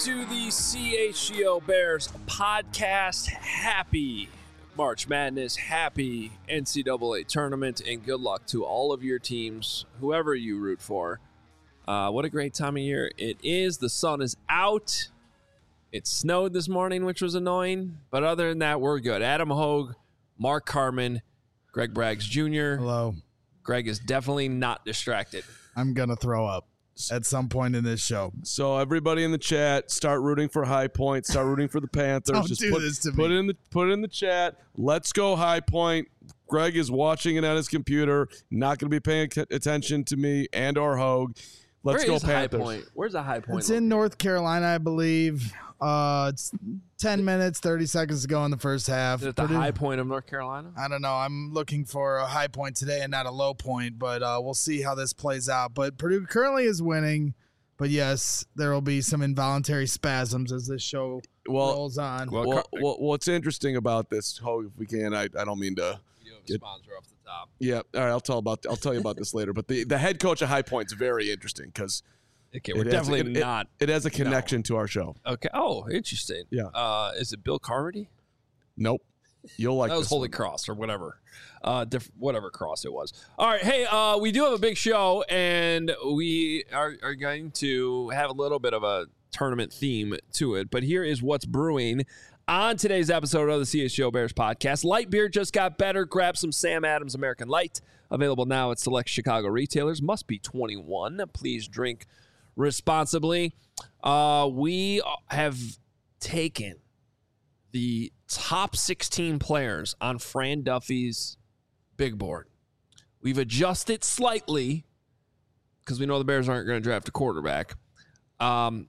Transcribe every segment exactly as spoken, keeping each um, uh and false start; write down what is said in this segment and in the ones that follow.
to the C H G O Bears podcast. Happy March Madness, happy N C double A tournament, and good luck to all of your teams, whoever you root for. Uh, what a great time of year it is. The sun is out. It snowed this morning, which was annoying, but other than that, we're good. Adam Hogue, Mark Carman, Greg Braggs Junior Hello. Greg is definitely not distracted. I'm going to throw up at some point in this show. So everybody in the chat, start rooting for High Point. Start rooting for the Panthers. Don't Just do put, this to put me. it in the put it in the chat. Let's go High Point. Greg is watching it on his computer. Not going to be paying attention to me and or Hogue. Let's Where go is Panthers. High Point? Where's the High Point? It's in North Carolina, I believe. Uh, it's ten minutes, thirty seconds to go in the first half. Is it the Purdue- High Point of North Carolina? I don't know. I'm looking for a high point today and not a low point, but uh, we'll see how this plays out. But Purdue currently is winning. But yes, there will be some involuntary spasms as this show Well, rolls on. Well, well, Car- well, what's interesting about this, Hogue, if we can, I, I don't mean to. You have a Good. sponsor off the top. Yeah, all right. I'll tell about. I'll tell you about this later. But the, the head coach of High Point is very interesting because Okay, we're it has- definitely it- it- not. It has a connection to our show. Okay. Oh, interesting. Yeah. Uh, is it Bill Carmody? Nope. You'll like That was this Holy one. Cross or whatever. Uh, diff- whatever cross it was. All right. Hey, uh, we do have a big show, and we are, are going to have a little bit of a tournament theme to it. But here is what's brewing on today's episode of the C H G O Bears podcast. Light beer just got better. Grab some Sam Adams American Light. Available now at select Chicago retailers. Must be twenty-one. Please drink responsibly. Uh, we have taken the top sixteen players on Fran Duffy's big board. We've adjusted slightly because we know the Bears aren't going to draft a quarterback um,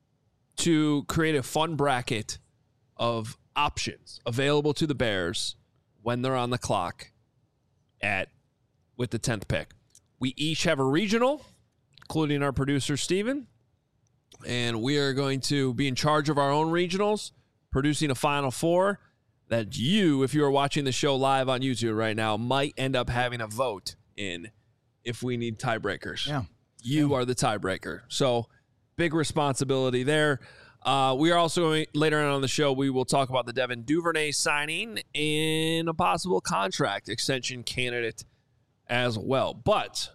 to create a fun bracket of options available to the Bears when they're on the clock at with the tenth pick. We each have a regional, including our producer, Steven, and we are going to be in charge of our own regionals, producing a Final Four that you, if you are watching the show live on YouTube right now, might end up having a vote in if we need tiebreakers. Yeah. You are the tiebreaker. So big responsibility there. Uh, we are also going, later on on the show, we will talk about the Devin Duvernay signing and a possible contract extension candidate as well. But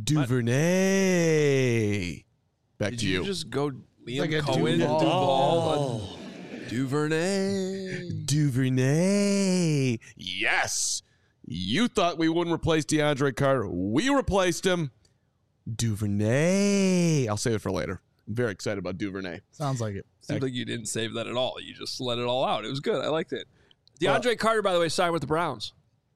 Duvernay. Back did to you you. just go Liam like a Cohen, Duval. Duval, Duvernay? Duvernay. Yes. You thought we wouldn't replace DeAndre Carter. We replaced him. Duvernay. I'll save it for later. I'm very excited about Duvernay. Sounds like it. Seems like you didn't save that at all. You just let it all out. It was good. I liked it. DeAndre Carter, by the way, signed with the Browns.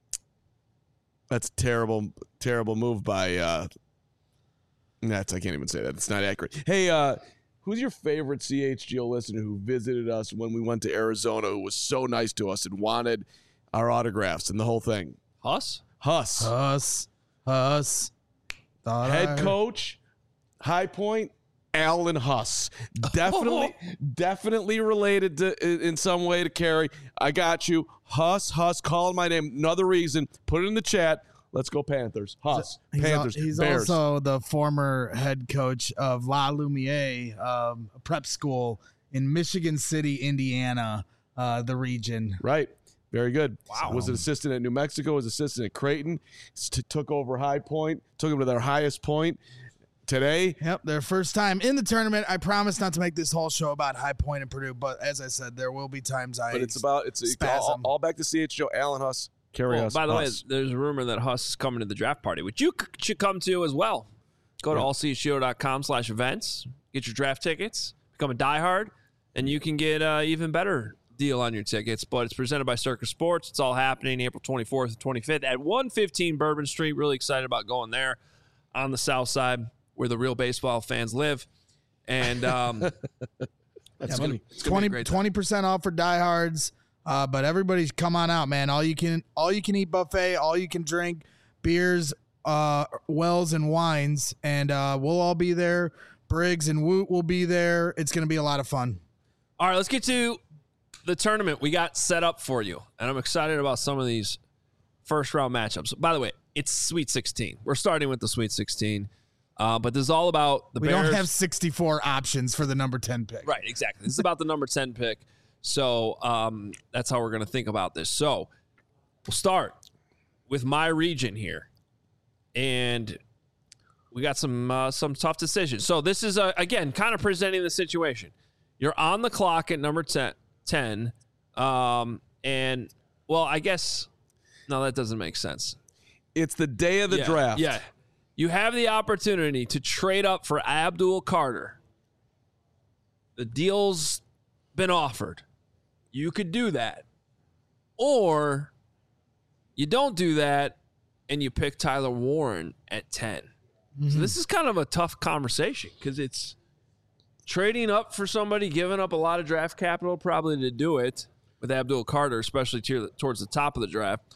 That's a terrible, terrible move by uh that's I can't even say that. It's not accurate. Hey, uh, who's your favorite C H G O listener who visited us when we went to Arizona, who was so nice to us and wanted our autographs and the whole thing? Huss? Huss. Us. Us. Thought Head I- coach, High Point, Alan Huss. Definitely, definitely related to in in some way to Kerry. I got you. Huss, Huss, calling my name. Another reason. Put it in the chat. Let's go Panthers. Huss, He's, al- Panthers, he's Bears. also the former head coach of La Lumiere, um, a prep school in Michigan City, Indiana, uh, the region. Right. Very good. Wow. Was an assistant at New Mexico, was assistant at Creighton, st- took over High Point, took them to their highest point. Today, Yep, their first time in the tournament. I promise not to make this whole show about High Point and Purdue, but as I said, there will be times I. but it's about, it's all, spasm. all back to C H G O, Alan Huss, Kerry Well, Huss. by the way, Huss. there's a rumor that Huss is coming to the draft party, which you c- should come to as well. Go to Yeah. all c h g o dot com slash events, get your draft tickets, become a diehard, and you can get an even better deal on your tickets. But it's presented by Circus Sports. It's all happening April twenty-fourth and twenty-fifth at one fifteen Bourbon Street. Really excited about going there on the south side where the real baseball fans live. And um, That's it's funny. gonna, it's gonna be a 20 great time. percent off for diehards. Uh, but everybody's come on out, man. All you can all you can eat buffet, all you can drink, beers, uh, wells and wines, and uh, we'll all be there. Briggs and Woot will be there. It's gonna be a lot of fun. All right, let's get to the tournament we got set up for you. And I'm excited about some of these first round matchups. By the way, it's Sweet sixteen. We're starting with the Sweet sixteen. Uh, but this is all about the we Bears. don't have sixty-four options for the number ten pick. Right, exactly. This is about the number ten pick. So um, that's how we're going to think about this. So we'll start with my region here. And we got some uh, some tough decisions. So this is, uh, again, kind of presenting the situation. You're on the clock at number ten. Um, and, well, I guess, no, that doesn't make sense. It's the day of the yeah, draft. Yeah. You have the opportunity to trade up for Abdul Carter. The deal's been offered. You could do that. Or you don't do that and you pick Tyler Warren at ten. Mm-hmm. So this is kind of a tough conversation because it's trading up for somebody, giving up a lot of draft capital probably to do it with Abdul Carter, especially to, towards the top of the draft.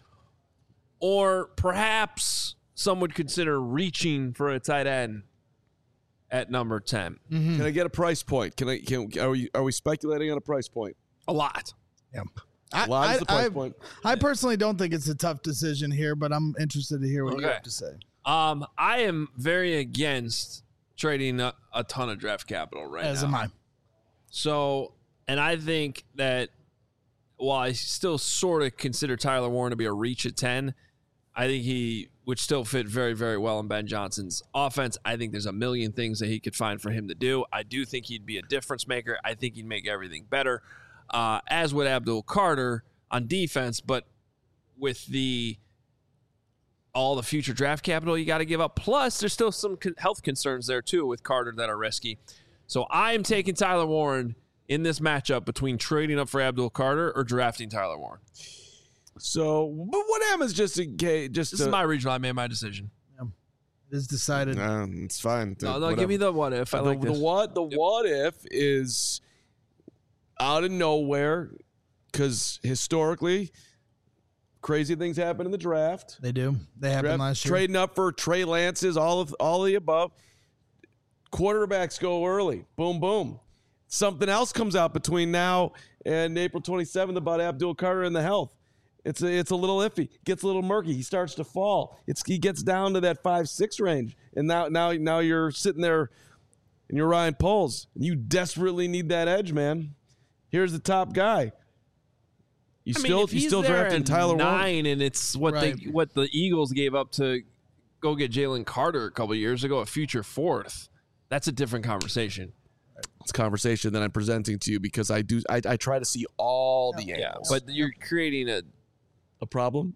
Or perhaps some would consider reaching for a tight end at number ten. Mm-hmm. Can I get a price point? Can I? Can are we are we speculating on a price point? A lot. Yeah. A lot I, is the price I, point. I personally don't think it's a tough decision here, but I'm interested to hear what okay. you have to say. Um, I am very against trading a, a ton of draft capital right As now. am I. So, and I think that while I still sort of consider Tyler Warren to be a reach at ten, I think he would still fit very, very well in Ben Johnson's offense. I think there's a million things that he could find for him to do. I do think he'd be a difference maker. I think he'd make everything better, uh, as would Abdul Carter on defense. But with the all the future draft capital you got to give up, plus there's still some health concerns there too with Carter that are risky. So I am taking Tyler Warren in this matchup between trading up for Abdul Carter or drafting Tyler Warren. So, but what happens just in case? Just This to, is my regional. I made my decision. It is decided. Nah, it's fine. No, no, give me the what if. I the, like the this. what the Yep. what if is out of nowhere because historically crazy things happen in the draft. They do. They happened Draft- last year. Trading up for Trey Lance's, all of all of the above. Quarterbacks go early. Boom, boom. Something else comes out between now and April twenty-seventh about Abdul Carter and the health. It's a, it's a little iffy. Gets a little murky. He starts to fall. It's he gets down to that five six range, and now now now you're sitting there, and you're Ryan Poles. You desperately need that edge, man. Here's the top guy. You I mean, still if you he's still there drafting at Tyler Warren. nine, and it's what Right. they what the Eagles gave up to go get Jalen Carter a couple of years ago, a future fourth. That's a different conversation. It's a conversation that I'm presenting to you because I do I, I try to see all the Yeah, angles. but you're creating a. a problem.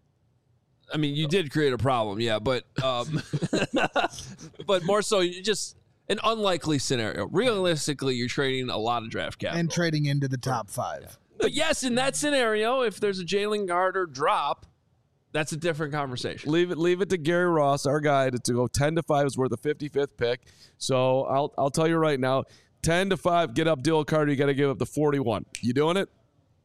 I mean, you did create a problem, yeah, but um, but more so, you just an unlikely scenario. Realistically, you're trading a lot of draft capital. and trading into the top five. But yes, in that scenario, if there's a Jalen Carter drop, that's a different conversation. Leave it leave it to Gary Ross, our guy, to, to go ten to five is worth the fifty-fifth pick. So I'll I'll tell you right now, ten to five, get up Abdul Carter, you got to give up the forty-one. You doing it?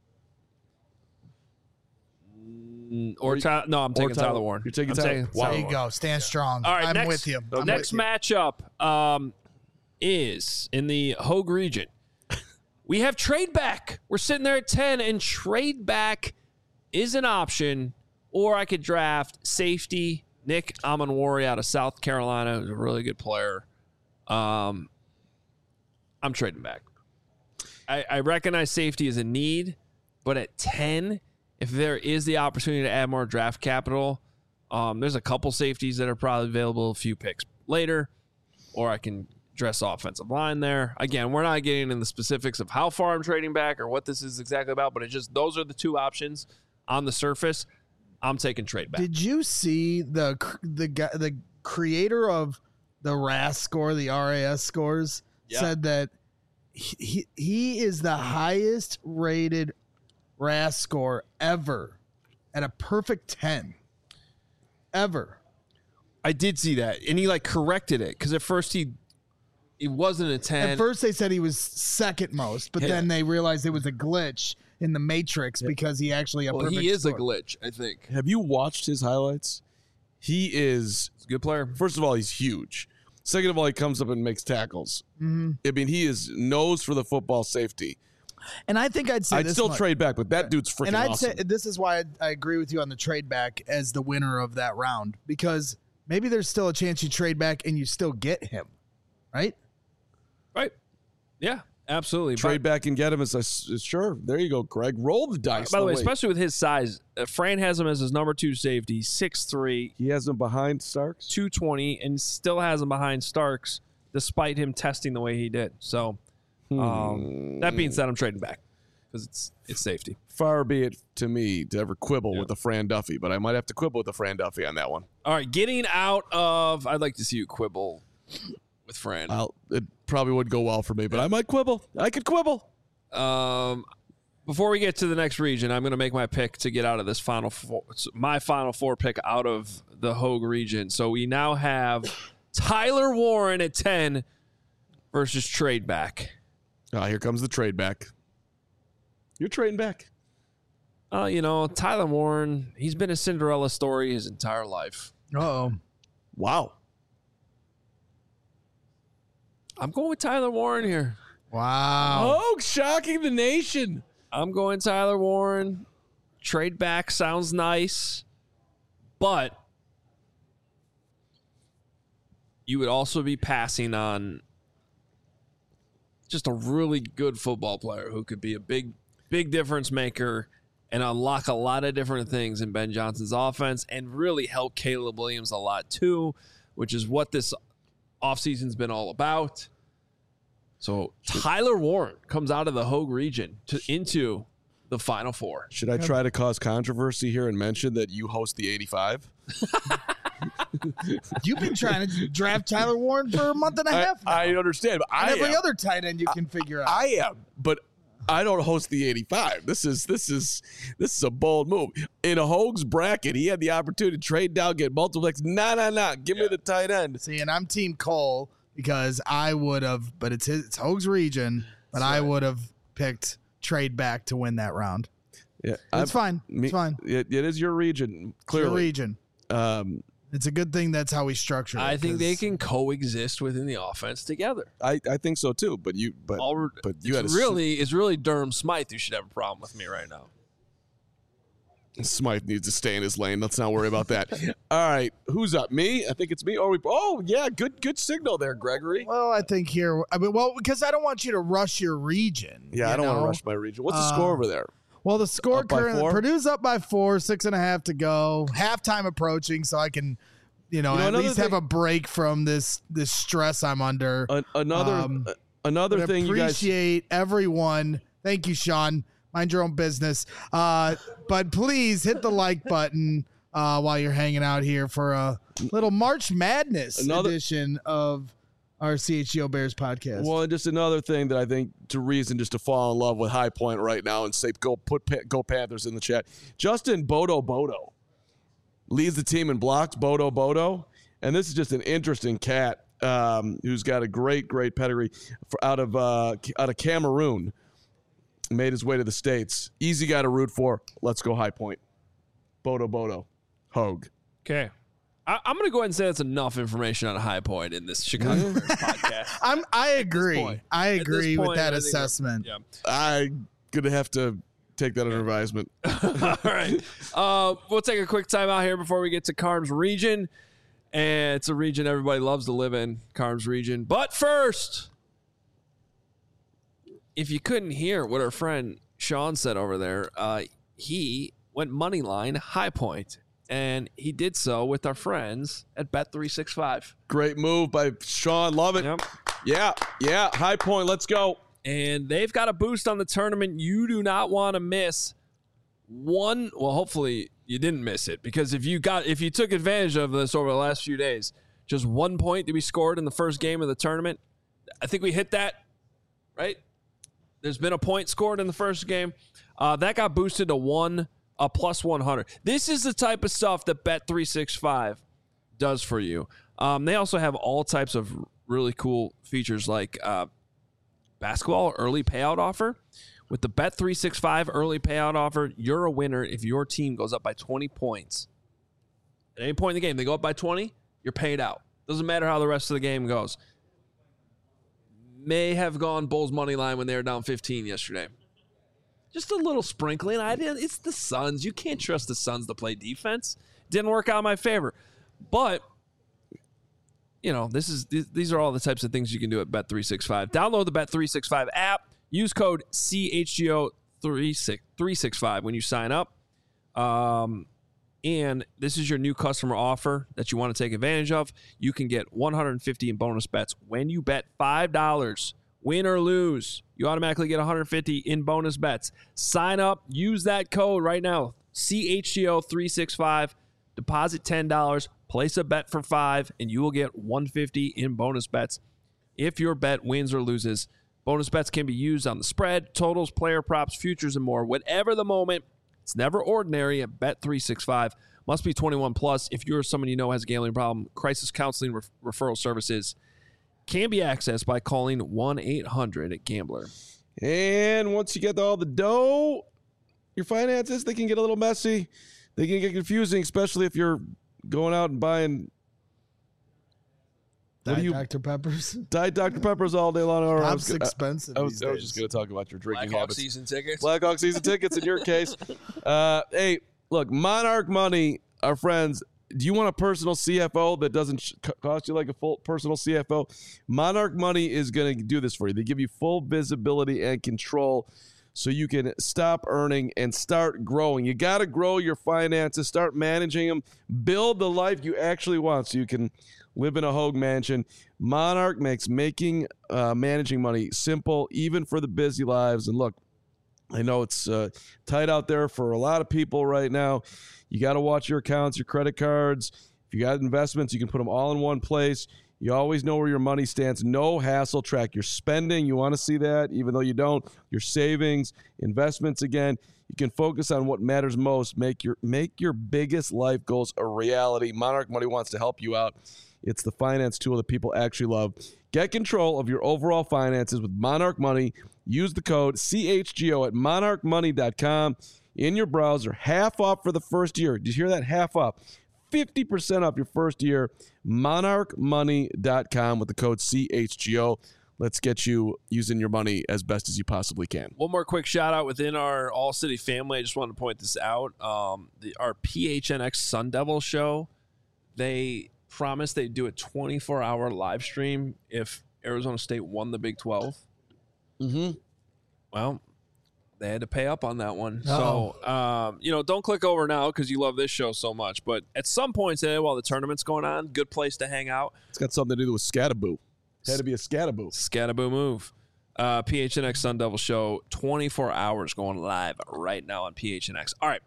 Or Ty- no, I'm taking Tyler- Tyler Warren. you're taking I'm Tyler- taking Wow. There you Warren. go. Stand strong. All right, I'm next, with you. The I'm next with you. matchup um, is in the Hogue region. We have trade back. We're sitting there at ten, and trade back is an option. Or I could draft safety Nick Amanwari out of South Carolina, who's a really good player. Um, I'm trading back. I, I recognize safety is a need, but at ten, if there is the opportunity to add more draft capital, um, there's a couple safeties that are probably available a few picks later, or I can dress offensive line there. Again, we're not getting into the specifics of how far I'm trading back or what this is exactly about, but it's just those are the two options on the surface. I'm taking trade back. Did you see the cr- the guy, the creator of the R A S score, the R A S scores, Yeah. said that he he is the highest rated R A S score ever at a perfect ten. Ever. I did see that, and he like corrected it because at first he he wasn't a ten. At first they said he was second most, but Yeah. then they realized it was a glitch in the Matrix because he actually a well, perfect he is score. a glitch, I think. Have you watched his highlights? He is He's a good player. first of all, he's huge. Second of all, he comes up and makes tackles. Mm-hmm. I mean, he is nose for the football safety. And I think I'd say I'd this still much. trade back, but that dude's freaking And I'd awesome. say this is why I, I agree with you on the trade back as the winner of that round, because maybe there's still a chance you trade back and you still get him, right? Right. Yeah, absolutely. Trade but, back and get him. As a, sure. There you go, Greg. Roll the dice. By the way, way, especially with his size, uh, Fran has him as his number two safety, six three, he has him behind Starks. two twenty, and still has him behind Starks, despite him testing the way he did. So, um, that being said, I'm trading back because it's it's safety. Far be it to me to ever quibble Yeah. with the Fran Duffy, but I might have to quibble with the Fran Duffy on that one. All right, getting out of. I'd like to see you quibble with Fran. I'll, it probably would go well for me, but I might quibble. I could quibble. Um, before we get to the next region, I'm going to make my pick to get out of this final four, my final four pick out of the Hogue region. So we now have Tyler Warren at ten versus trade back. Ah, here comes the trade back. You're trading back. Uh, you know, Tyler Warren, he's been a Cinderella story his entire life. Uh-oh. Wow. I'm going with Tyler Warren here. Wow. Oh, shocking the nation. I'm going Tyler Warren. Trade back sounds nice, but you would also be passing on just a really good football player who could be a big, big difference maker and unlock a lot of different things in Ben Johnson's offense and really help Caleb Williams a lot too, which is what this offseason's been all about. So Tyler Warren comes out of the Hogue region to into the Final Four. Should I try to cause controversy here and mention that you host the eighty-five? You've been trying to draft Tyler Warren for a month and a I, half now. I understand, but I And every am. other tight end you can figure out. I am, but I don't host the eighty-five. This is this is this is a bold move. In a Hogue's bracket, he had the opportunity to trade down, get multiple picks. Nah, nah, nah. Give me the tight end. See, and I'm Team Cole because I would have, but it's his, it's Hogue's region, but That's I right. would have picked trade back to win that round. Yeah, It's I'm- fine. me- It's fine. It, it is your region, It's your clearly. region. Um, It's a good thing that's how we structure it. I think they 'cause can coexist within the offense together. I, I think so too. But you, but All, but you had it's a really, it's really Durham Smythe who should have a problem with me right now. Smythe needs to stay in his lane. Let's not worry about that. All right, who's up? Me? I think it's me. Or we? Oh yeah, good good signal there, Gregory. Well, I think here, I mean, well, because I don't want you to rush your region. Yeah, you I don't want know? to rush my region. What's the Uh, score over there? Well, the score Up by currently, four? Purdue's up by four, six and a half to go. Halftime approaching, so I can, you know, You know, at another least have thing- a break from this this stress I'm under. An, another um, uh, another But thing you guys. appreciate everyone. Thank you, Sean. Mind your own business. Uh, but please hit the like button uh, while you're hanging out here for a little March Madness Another- edition of our C H G O Bears podcast. Well, and just another thing that I think to reason just to fall in love with High Point right now and say go put Pa- go Panthers in the chat. Justin Bodo Bodo leads the team in blocks. Bodo Bodo, and this is just an interesting cat um, who's got a great great pedigree for, out of uh, out of Cameroon. Made his way to the States. Easy guy to root for. Let's go High Point. Bodo Bodo, Hogue. Okay. I, I'm going to go ahead and say that's enough information on High Point in this Chicago Bears podcast. I'm, I agree. point. I At this agree with point, that I think we're- assessment. Yeah. I'm gonna have to take that under advisement. All right. Uh, we'll take a quick time out here before we get to Carm's region. And it's a region everybody loves to live in, Carm's region. But first, if you couldn't hear what our friend Sean said over there, uh, he went money line High Point, and he did so with our friends at Bet three sixty-five. Great move by Sean. Love it. Yep. Yeah, yeah. High Point. Let's go. And they've got a boost on the tournament you do not want to miss. One, well, hopefully you didn't miss it, because if you got if you took advantage of this over the last few days, just one point to be scored in the first game of the tournament. I think we hit that, right? There's been a point scored in the first game. Uh, that got boosted to one, a plus one hundred. This is the type of stuff that Bet three sixty-five does for you. Um, they also have all types of really cool features like uh, basketball early payout offer. With the Bet three sixty-five early payout offer, you're a winner if your team goes up by twenty points. At any point in the game, they go up by twenty, you're paid out. Doesn't matter how the rest of the game goes. May have gone Bulls money line when they were down fifteen yesterday. Just a little sprinkling. I didn't. It's the Suns. You can't trust the Suns to play defense. Didn't work out in my favor. But you know, this is th- these are all the types of things you can do at Bet three sixty-five. Download the Bet three sixty-five app. Use code C H G O three sixty-five when you sign up. Um, and this is your new customer offer that you want to take advantage of. You can get one hundred fifty in bonus bets when you bet five dollars. Win or lose, you automatically get one hundred fifty in bonus bets. Sign up. Use that code right now. C H G O three sixty-five. Deposit ten dollars. Place a bet for five, and you will get one hundred fifty in bonus bets if your bet wins or loses. Bonus bets can be used on the spread, totals, player props, futures, and more. Whatever the moment, it's never ordinary at Bet three sixty-five. Must be twenty-one plus. If you're someone you know has a gambling problem, crisis counseling ref- referral services can be accessed by calling one eight hundred gambler. And once you get all the dough, your finances, they can get a little messy. They can get confusing, especially if you're going out and buying what Diet do you, Doctor Peppers. Diet Doctor Peppers all day long. I Pop's expensive. I was, these I was days. just going to talk about your drinking Blackhawk habits. season tickets. Blackhawk season tickets in your case. Uh, hey, look, Monarch Money, our friends. Do you want a personal C F O that doesn't sh- cost you like a full personal C F O? Monarch Money is going to do this for you. They give you full visibility and control so you can stop earning and start growing. You got to grow your finances, start managing them, build the life you actually want so you can live in a Hogue mansion. Monarch makes making uh, managing money simple, even for the busy lives. And look, I know it's uh, tight out there for a lot of people right now. You got to watch your accounts, your credit cards. If you got investments, you can put them all in one place. You always know where your money stands. No hassle. Track your spending. You want to see that, even though you don't. Your savings, investments again. You can focus on what matters most. Make your make your biggest life goals a reality. Monarch Money wants to help you out. It's the finance tool that people actually love. Get control of your overall finances with Monarch Money. Use the code C H G O at monarch money dot com in your browser. Half off for the first year. Did you hear that? Half off. fifty percent off your first year. monarch money dot com with the code C H G O. Let's get you using your money as best as you possibly can. One more quick shout out within our All City family. I just wanted to point this out. Um, the, our P H N X Sun Devil show, they promised they'd do a twenty-four hour live stream if Arizona State won the Big twelve. Mm-hmm. Well, they had to pay up on that one. Uh-oh. So, um, you know, don't click over now because you love this show so much. But at some point today, while the tournament's going on, good place to hang out. It's got something to do with Scataboo. Had to be a Scataboo. Scataboo move. Uh, P H N X Sun Devil show, twenty-four hours going live right now on P H N X. All right.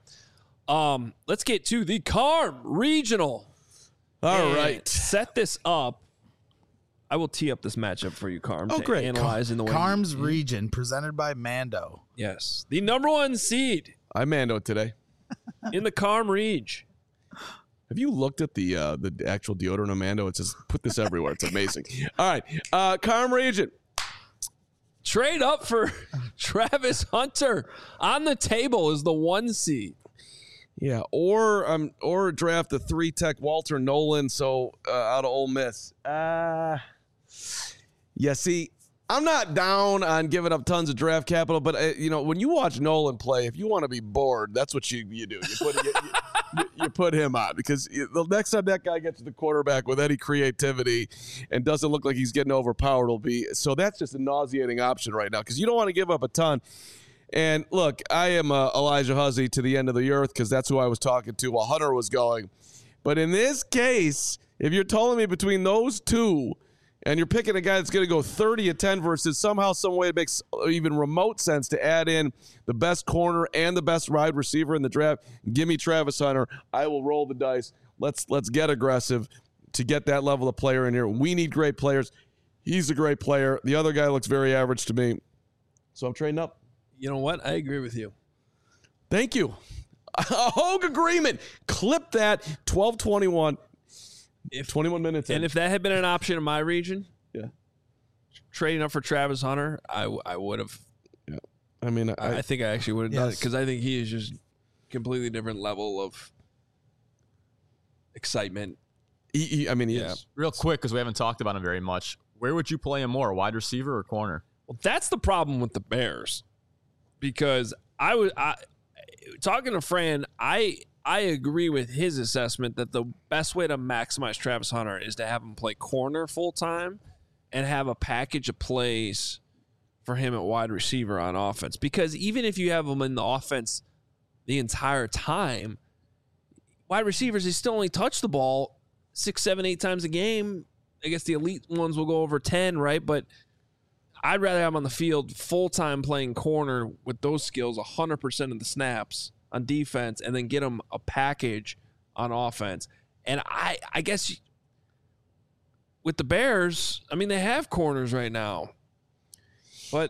Um, let's get to the Carm Regional. All And right. Set this up. I will tee up this matchup for you, Carm. Oh, to great. Analyze in the way. Carm's Region, presented by Mando. Yes. The number one seed I Mando today. in the Carm Reg. Have you looked at the uh, the actual deodorant of Mando? It says put this everywhere. It's amazing. All right. Uh, Carm Region. Trade up for Travis Hunter. On the table is the one seed. Yeah, or um, or draft the three tech Walter Nolan. So uh, out of Ole Miss. Uh, yeah. See, I'm not down on giving up tons of draft capital, but uh, you know, when you watch Nolan play, if you want to be bored, that's what you you do. You put you, you, you put him on because the next time that guy gets to the quarterback with any creativity and doesn't look like he's getting overpowered, will be so. That's just a nauseating option right now because you don't want to give up a ton. And look, I am uh, Elijah Huzzy to the end of the earth because that's who I was talking to while Hunter was going. But in this case, if you're telling me between those two and you're picking a guy that's going to go thirty and ten versus somehow, some way it makes even remote sense to add in the best corner and the best wide receiver in the draft, give me Travis Hunter. I will roll the dice. Let's let's get aggressive to get that level of player in here. We need great players. He's a great player. The other guy looks very average to me. So I'm trading up. You know what? I agree with you. Thank you. A Hogue agreement. Clip that. twelve twenty-one. If twenty-one minutes in. And if that had been an option in my region, yeah, trading up for Travis Hunter, I, w- I would have. Yeah. I mean, I, I, I think I actually would have done it Yes. because I think he is just completely different level of excitement. he, he, I mean, he Yeah. is. Real quick, because we haven't talked about him very much. Where would you play him more, wide receiver or corner? Well, that's the problem with the Bears because I was I, talking to Fran. I I agree with his assessment that the best way to maximize Travis Hunter is to have him play corner full time and have a package of plays for him at wide receiver on offense. Because even if you have him in the offense the entire time, wide receivers, they still only touch the ball six, seven, eight times a game. I guess the elite ones will go over ten, right? But I'd rather have him on the field full-time playing corner with those skills one hundred percent of the snaps on defense and then get him a package on offense. And I, I guess with the Bears, I mean, they have corners right now. But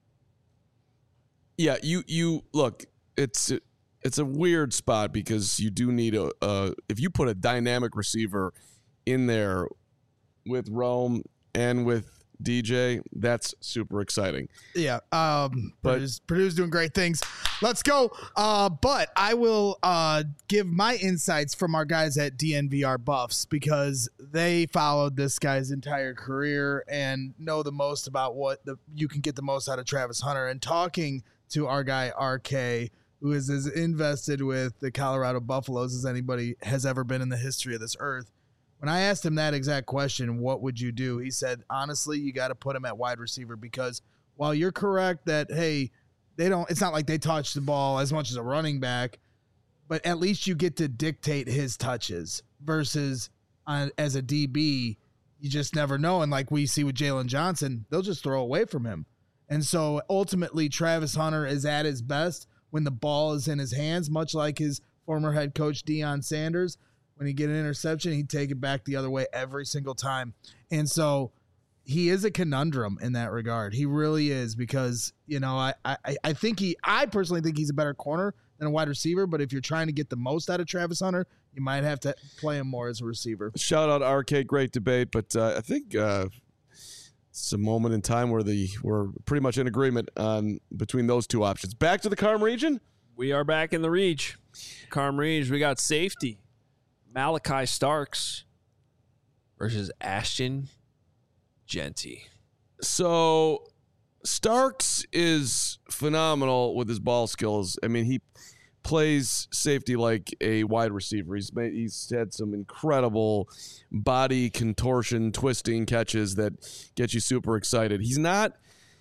yeah, you you look, it's it's a weird spot because you do need a uh, if you put a dynamic receiver in there with Rome and with D J, that's super exciting. Yeah, um, But- Purdue's, Purdue's doing great things. Let's go. Uh, but I will uh, give my insights from our guys at D N V R Buffs because they followed this guy's entire career and know the most about what the you can get the most out of Travis Hunter. And talking to our guy R K, who is as invested with the Colorado Buffaloes as anybody has ever been in the history of this earth. When I asked him that exact question, what would you do? He said, honestly, you got to put him at wide receiver because while you're correct that, hey, they don't, it's not like they touch the ball as much as a running back, but at least you get to dictate his touches versus uh, as a D B, you just never know. And like we see with Jalen Johnson, they'll just throw away from him. And so ultimately, Travis Hunter is at his best when the ball is in his hands, much like his former head coach, Deion Sanders. When he get an interception, he'd take it back the other way every single time. And so he is a conundrum in that regard. He really is because, you know, I, I, I think he, I personally think he's a better corner than a wide receiver. But if you're trying to get the most out of Travis Hunter, you might have to play him more as a receiver. Shout out R K, great debate, but uh, I think uh, it's a moment in time where the we're pretty much in agreement on between those two options. Back to the Carm region. we are back in the reach. Carm Reach, we got safety. Malachi Starks versus Ashton Jeanty. So Starks is phenomenal with his ball skills. I mean, he plays safety like a wide receiver. He's made, he's had some incredible body contortion, twisting catches that get you super excited. He's not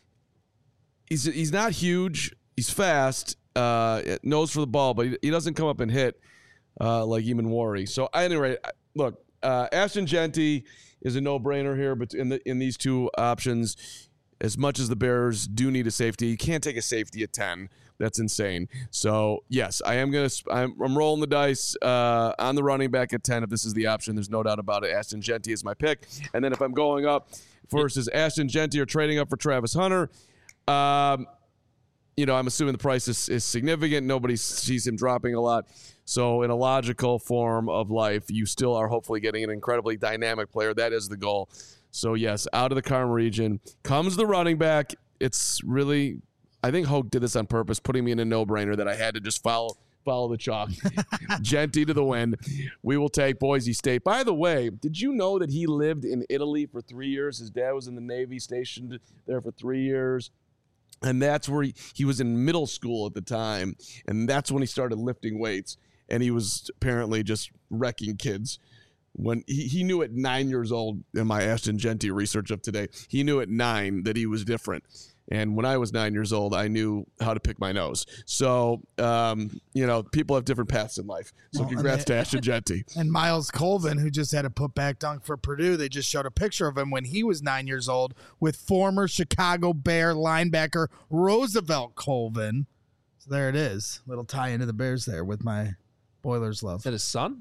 he's he's not huge. He's fast, uh, nose for the ball, but he, he doesn't come up and hit uh, like Eamon Worry. So anyway, look, uh, Ashton Jeanty is a no-brainer here, but in the in these two options, as much as the Bears do need a safety, you can't take a safety at ten. That's insane. So yes, I am gonna. I'm, I'm rolling the dice uh, on the running back at ten. If this is the option, there's no doubt about it. Ashton Jeanty is my pick, and then if I'm going up versus Ashton Jeanty or trading up for Travis Hunter, um, you know, I'm assuming the price is, is significant. Nobody sees him dropping a lot. So in a logical form of life, you still are hopefully getting an incredibly dynamic player. That is the goal. So yes, out of the Carm region comes the running back. It's really, I think Hoke did this on purpose, putting me in a no-brainer that I had to just follow follow the chalk. Jeanty to the win. We will take Boise State. By the way, did you know that he lived in Italy for three years? His dad was in the Navy, stationed there for three years. And that's where he, he was in middle school at the time. And that's when he started lifting weights. And he was apparently just wrecking kids. When he, he knew at nine years old, in my Ashton Jeanty research of today, he knew at nine that he was different. And when I was nine years old, I knew how to pick my nose. So, um, you know, people have different paths in life. So Well, congrats and they- to Ashton Jeanty. And Miles Colvin, who just had a putback dunk for Purdue, they just showed a picture of him when he was nine years old with former Chicago Bear linebacker Roosevelt Colvin. So there it is. Little tie into the Bears there with my Boilers love. Is that his son?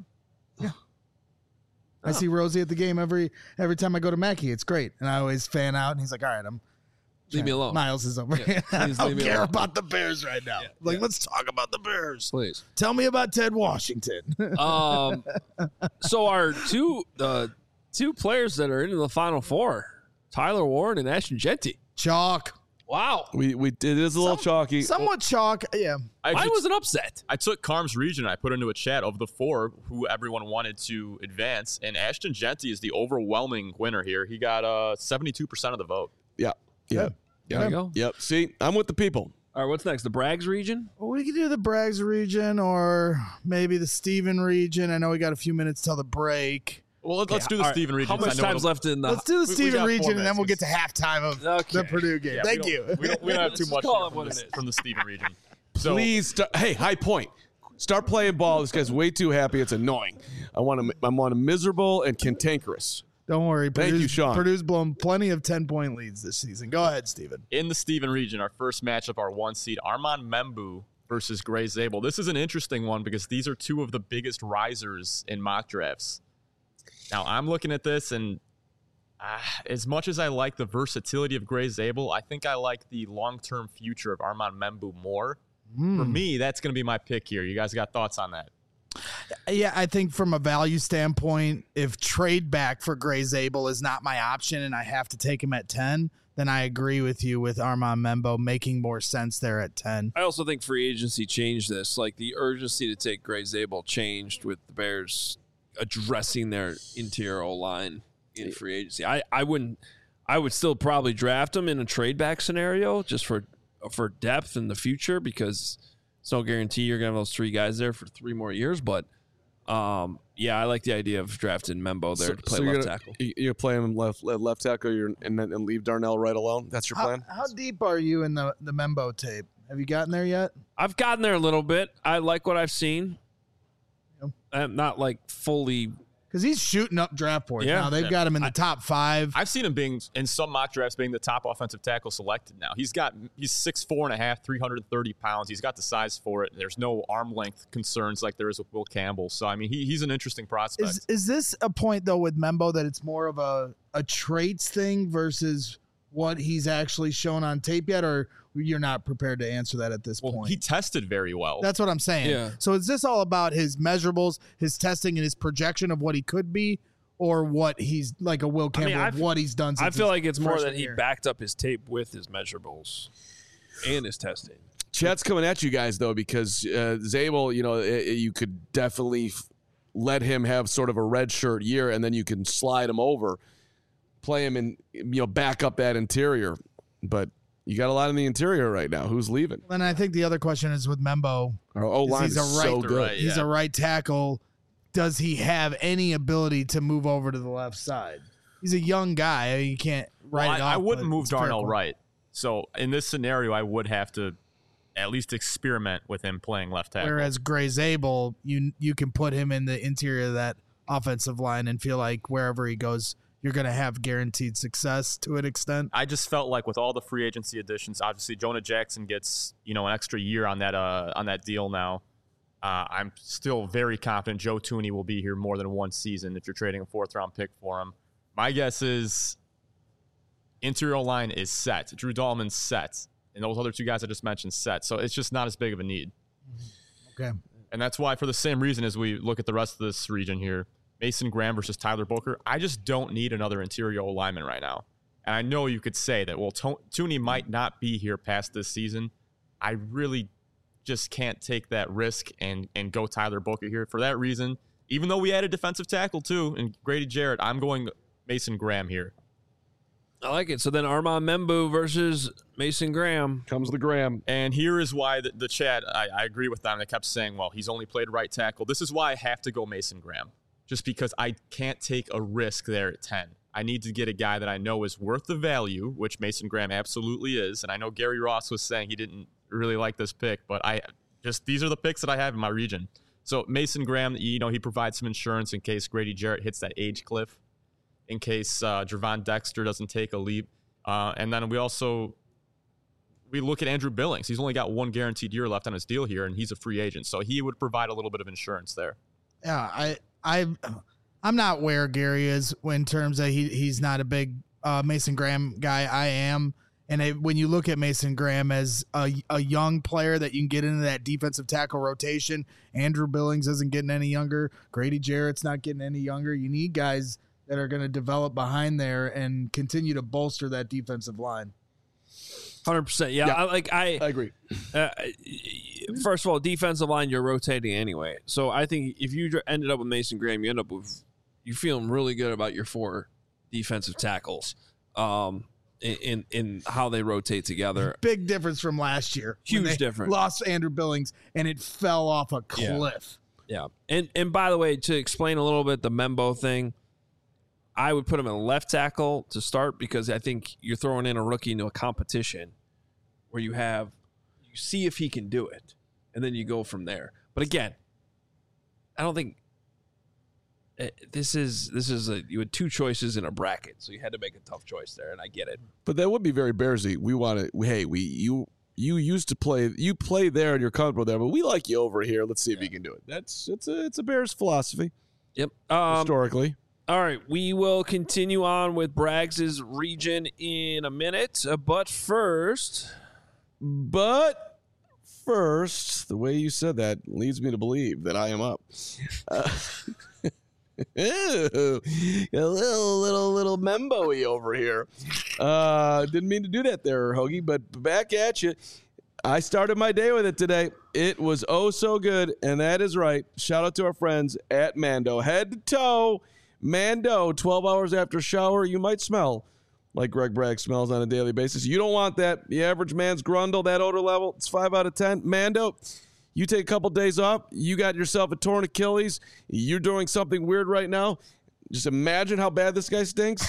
I see Rosie at the game every every time I go to Mackey. It's great. And I always fan out. And he's like, all right, I'm Leave me alone. Miles is over Yeah, here. I please don't leave me care alone. about the Bears right now. Yeah, like, yeah. let's talk about the Bears. Please. Tell me about Ted Washington. Um, so our two uh, two players that are in the Final Four, Tyler Warren and Ashton Jeanty. Chalk. Wow. We we it is a little Some- chalky. Somewhat chalk. Yeah. I Mine just- was an upset. I took Carm's region and I put into a chat of the four who everyone wanted to advance, and Ashton Jeanty is the overwhelming winner here. He got uh seventy-two percent of the vote. Yeah. Yeah. There you go. Yep. See, I'm with the people. All right, what's next? The Braggs region? Well, we could do the Braggs region or maybe the Steven region. I know we got a few minutes till the break. Well, let's, let's do the All right, Steven region. How much time's left in the? Let's do the we Steven got region, four and then we'll get minutes. to halftime of Okay. the Purdue game. Yeah, Thank we you. don't, we don't, we don't have too Let's much call here it from, what the, it is. from the Steven region. So, Please, start, hey, high point. Start playing ball. This guy's way too happy. It's annoying. I want him. I want him miserable and cantankerous. Don't worry. Thank Purdue's, you, Sean. Purdue's blown plenty of ten-point leads this season. Go ahead, Steven. in the Steven region, our first matchup, our one seed, Armand Membu versus Gray Zabel. This is an interesting one because these are two of the biggest risers in mock drafts. Now, I'm looking at this, and uh, as much as I like the versatility of Gray Zabel, I think I like the long-term future of Armand Membu more. Mm. For me, that's going to be my pick here. You guys got thoughts on that? Yeah, I think from a value standpoint, if trade back for Gray Zabel is not my option and I have to take him at ten, then I agree with you with Armand Membo making more sense there at ten. I also think free agency changed this. Like the urgency to take Gray Zabel changed with the Bears addressing their interior O line in free agency. I, I wouldn't. I would still probably draft him in a trade back scenario just for for depth in the future because it's no guarantee you're gonna have those three guys there for three more years. But um, yeah, I like the idea of drafting Membo there So- to play so you're left gonna- tackle. you- You're playing left left tackle, you're, and then and leave Darnell right alone. That's your How, plan. how deep are you in the, the Membo tape? Have you gotten there yet? I've gotten there a little bit. I like what I've seen. Yep. I'm not like fully. Because he's shooting up draft boards Yeah. now. They've Yeah. got him in the top five. I've seen him being in some mock drafts being the top offensive tackle selected now. He's got he's six four and a half, three hundred thirty pounds. He's got the size for it. There's no arm length concerns like there is with Will Campbell. So I mean he, he's an interesting prospect. Is is this a point though with Membo that it's more of a, a traits thing versus what he's actually shown on tape yet, or you're not prepared to answer that at this well, point? he tested very well. That's what I'm saying. Yeah. So is this all about his measurables, his testing, and his projection of what he could be, or what he's like a Will I mean, Campbell I of f- what he's done? I Since feel his like it's more freshman that he year? backed up his tape with his measurables and his testing. Chat's coming at you guys though because uh, Zabel, you know, i- i- you could definitely f- let him have sort of a red shirt year, and then you can slide him over, play him, and you know back up that interior. But you got a lot in the interior right now. Who's leaving? Then I think the other question is with Membo. Our O line He's is a right- so good. right. He's Yeah. a right tackle. Does he have any ability to move over to the left side? He's a young guy. You can't write Well, it I, off. I wouldn't but move it's a fair Darnell point. right. So in this scenario, I would have to at least experiment with him playing left tackle. Whereas Gray Zabel, you you can put him in the interior of that offensive line and feel like wherever he goes, you're going to have guaranteed success to an extent. I just felt like with all the free agency additions, obviously Jonah Jackson gets you know an extra year on that uh, on that deal now. Uh, I'm still very confident Joe Tooney will be here more than one season if you're trading a fourth round pick for him. My guess is interior line is set. Drew Dahlman's set, and those other two guys I just mentioned set. So it's just not as big of a need. Okay. And that's why, for the same reason as we look at the rest of this region here, Mason Graham versus Tyler Booker, I just don't need another interior lineman right now. And I know you could say that, well, To- Tooney might not be here past this season. I really just can't take that risk and, and go Tyler Booker here. For that reason, even though we added defensive tackle too, and Grady Jarrett, I'm going Mason Graham here. I like it. So then Armand Membu versus Mason Graham. Comes the Graham. And here is why the, the chat, I, I agree with them. They kept saying, well, he's only played right tackle. This is why I have to go Mason Graham, just because I can't take a risk there at ten. I need to get a guy that I know is worth the value, which Mason Graham absolutely is. And I know Gary Ross was saying he didn't really like this pick, but I just, these are the picks that I have in my region. So Mason Graham, you know, he provides some insurance in case Grady Jarrett hits that age cliff, in case uh, Javon Dexter doesn't take a leap. Uh, and then we also, we look at Andrew Billings. He's only got one guaranteed year left on his deal here, and he's a free agent. So he would provide a little bit of insurance there. Yeah, I I I'm not where Gary is in terms of he he's not a big uh, Mason Graham guy. I am. And it, when you look at Mason Graham as a, a young player that you can get into that defensive tackle rotation, Andrew Billings isn't getting any younger. Grady Jarrett's not getting any younger. You need guys that are going to develop behind there and continue to bolster that defensive line. one hundred percent. Yeah, Yeah. I, like I, I agree. uh, first of all, defensive line, you're rotating anyway. So I think if you dr- ended up with Mason Graham, you end up with, you feeling really good about your four defensive tackles. Um, in, in in how they rotate together. Big difference from last year. when Huge they difference. Lost Andrew Billings, and it fell off a Yeah. cliff. Yeah. And and by the way, to explain a little bit the Membo thing, I would put him in left tackle to start because I think you're throwing in a rookie into a competition where you have you see if he can do it, and then you go from there. But again, I don't think eh, this is this is a you had two choices in a bracket, so you had to make a tough choice there, and I get it. But that would be very Bearsy. We want to. Hey, we you you used to play. You play there and you're comfortable there, but we like you over here. Let's see if you can do it. That's it's a it's a Bears philosophy Yep. Um, historically. All right, we will continue on with Braggs' region in a minute, uh, but first, But first, the way you said that leads me to believe that I am up. Uh, ew, a little, little, little Membo-y over here. Uh, didn't mean to do that there, Hoagie, but back at you. I started my day with it today. It was oh so good, and that is right. Shout out to our friends at Mando. Head to toe, Mando, twelve hours after shower, you might smell like Greg Bragg smells on a daily basis. You don't want that. The average man's grundle, that odor level, it's five out of ten. Mando, you take a couple days off, you got yourself a torn Achilles, you're doing something weird right now. Just imagine how bad this guy stinks.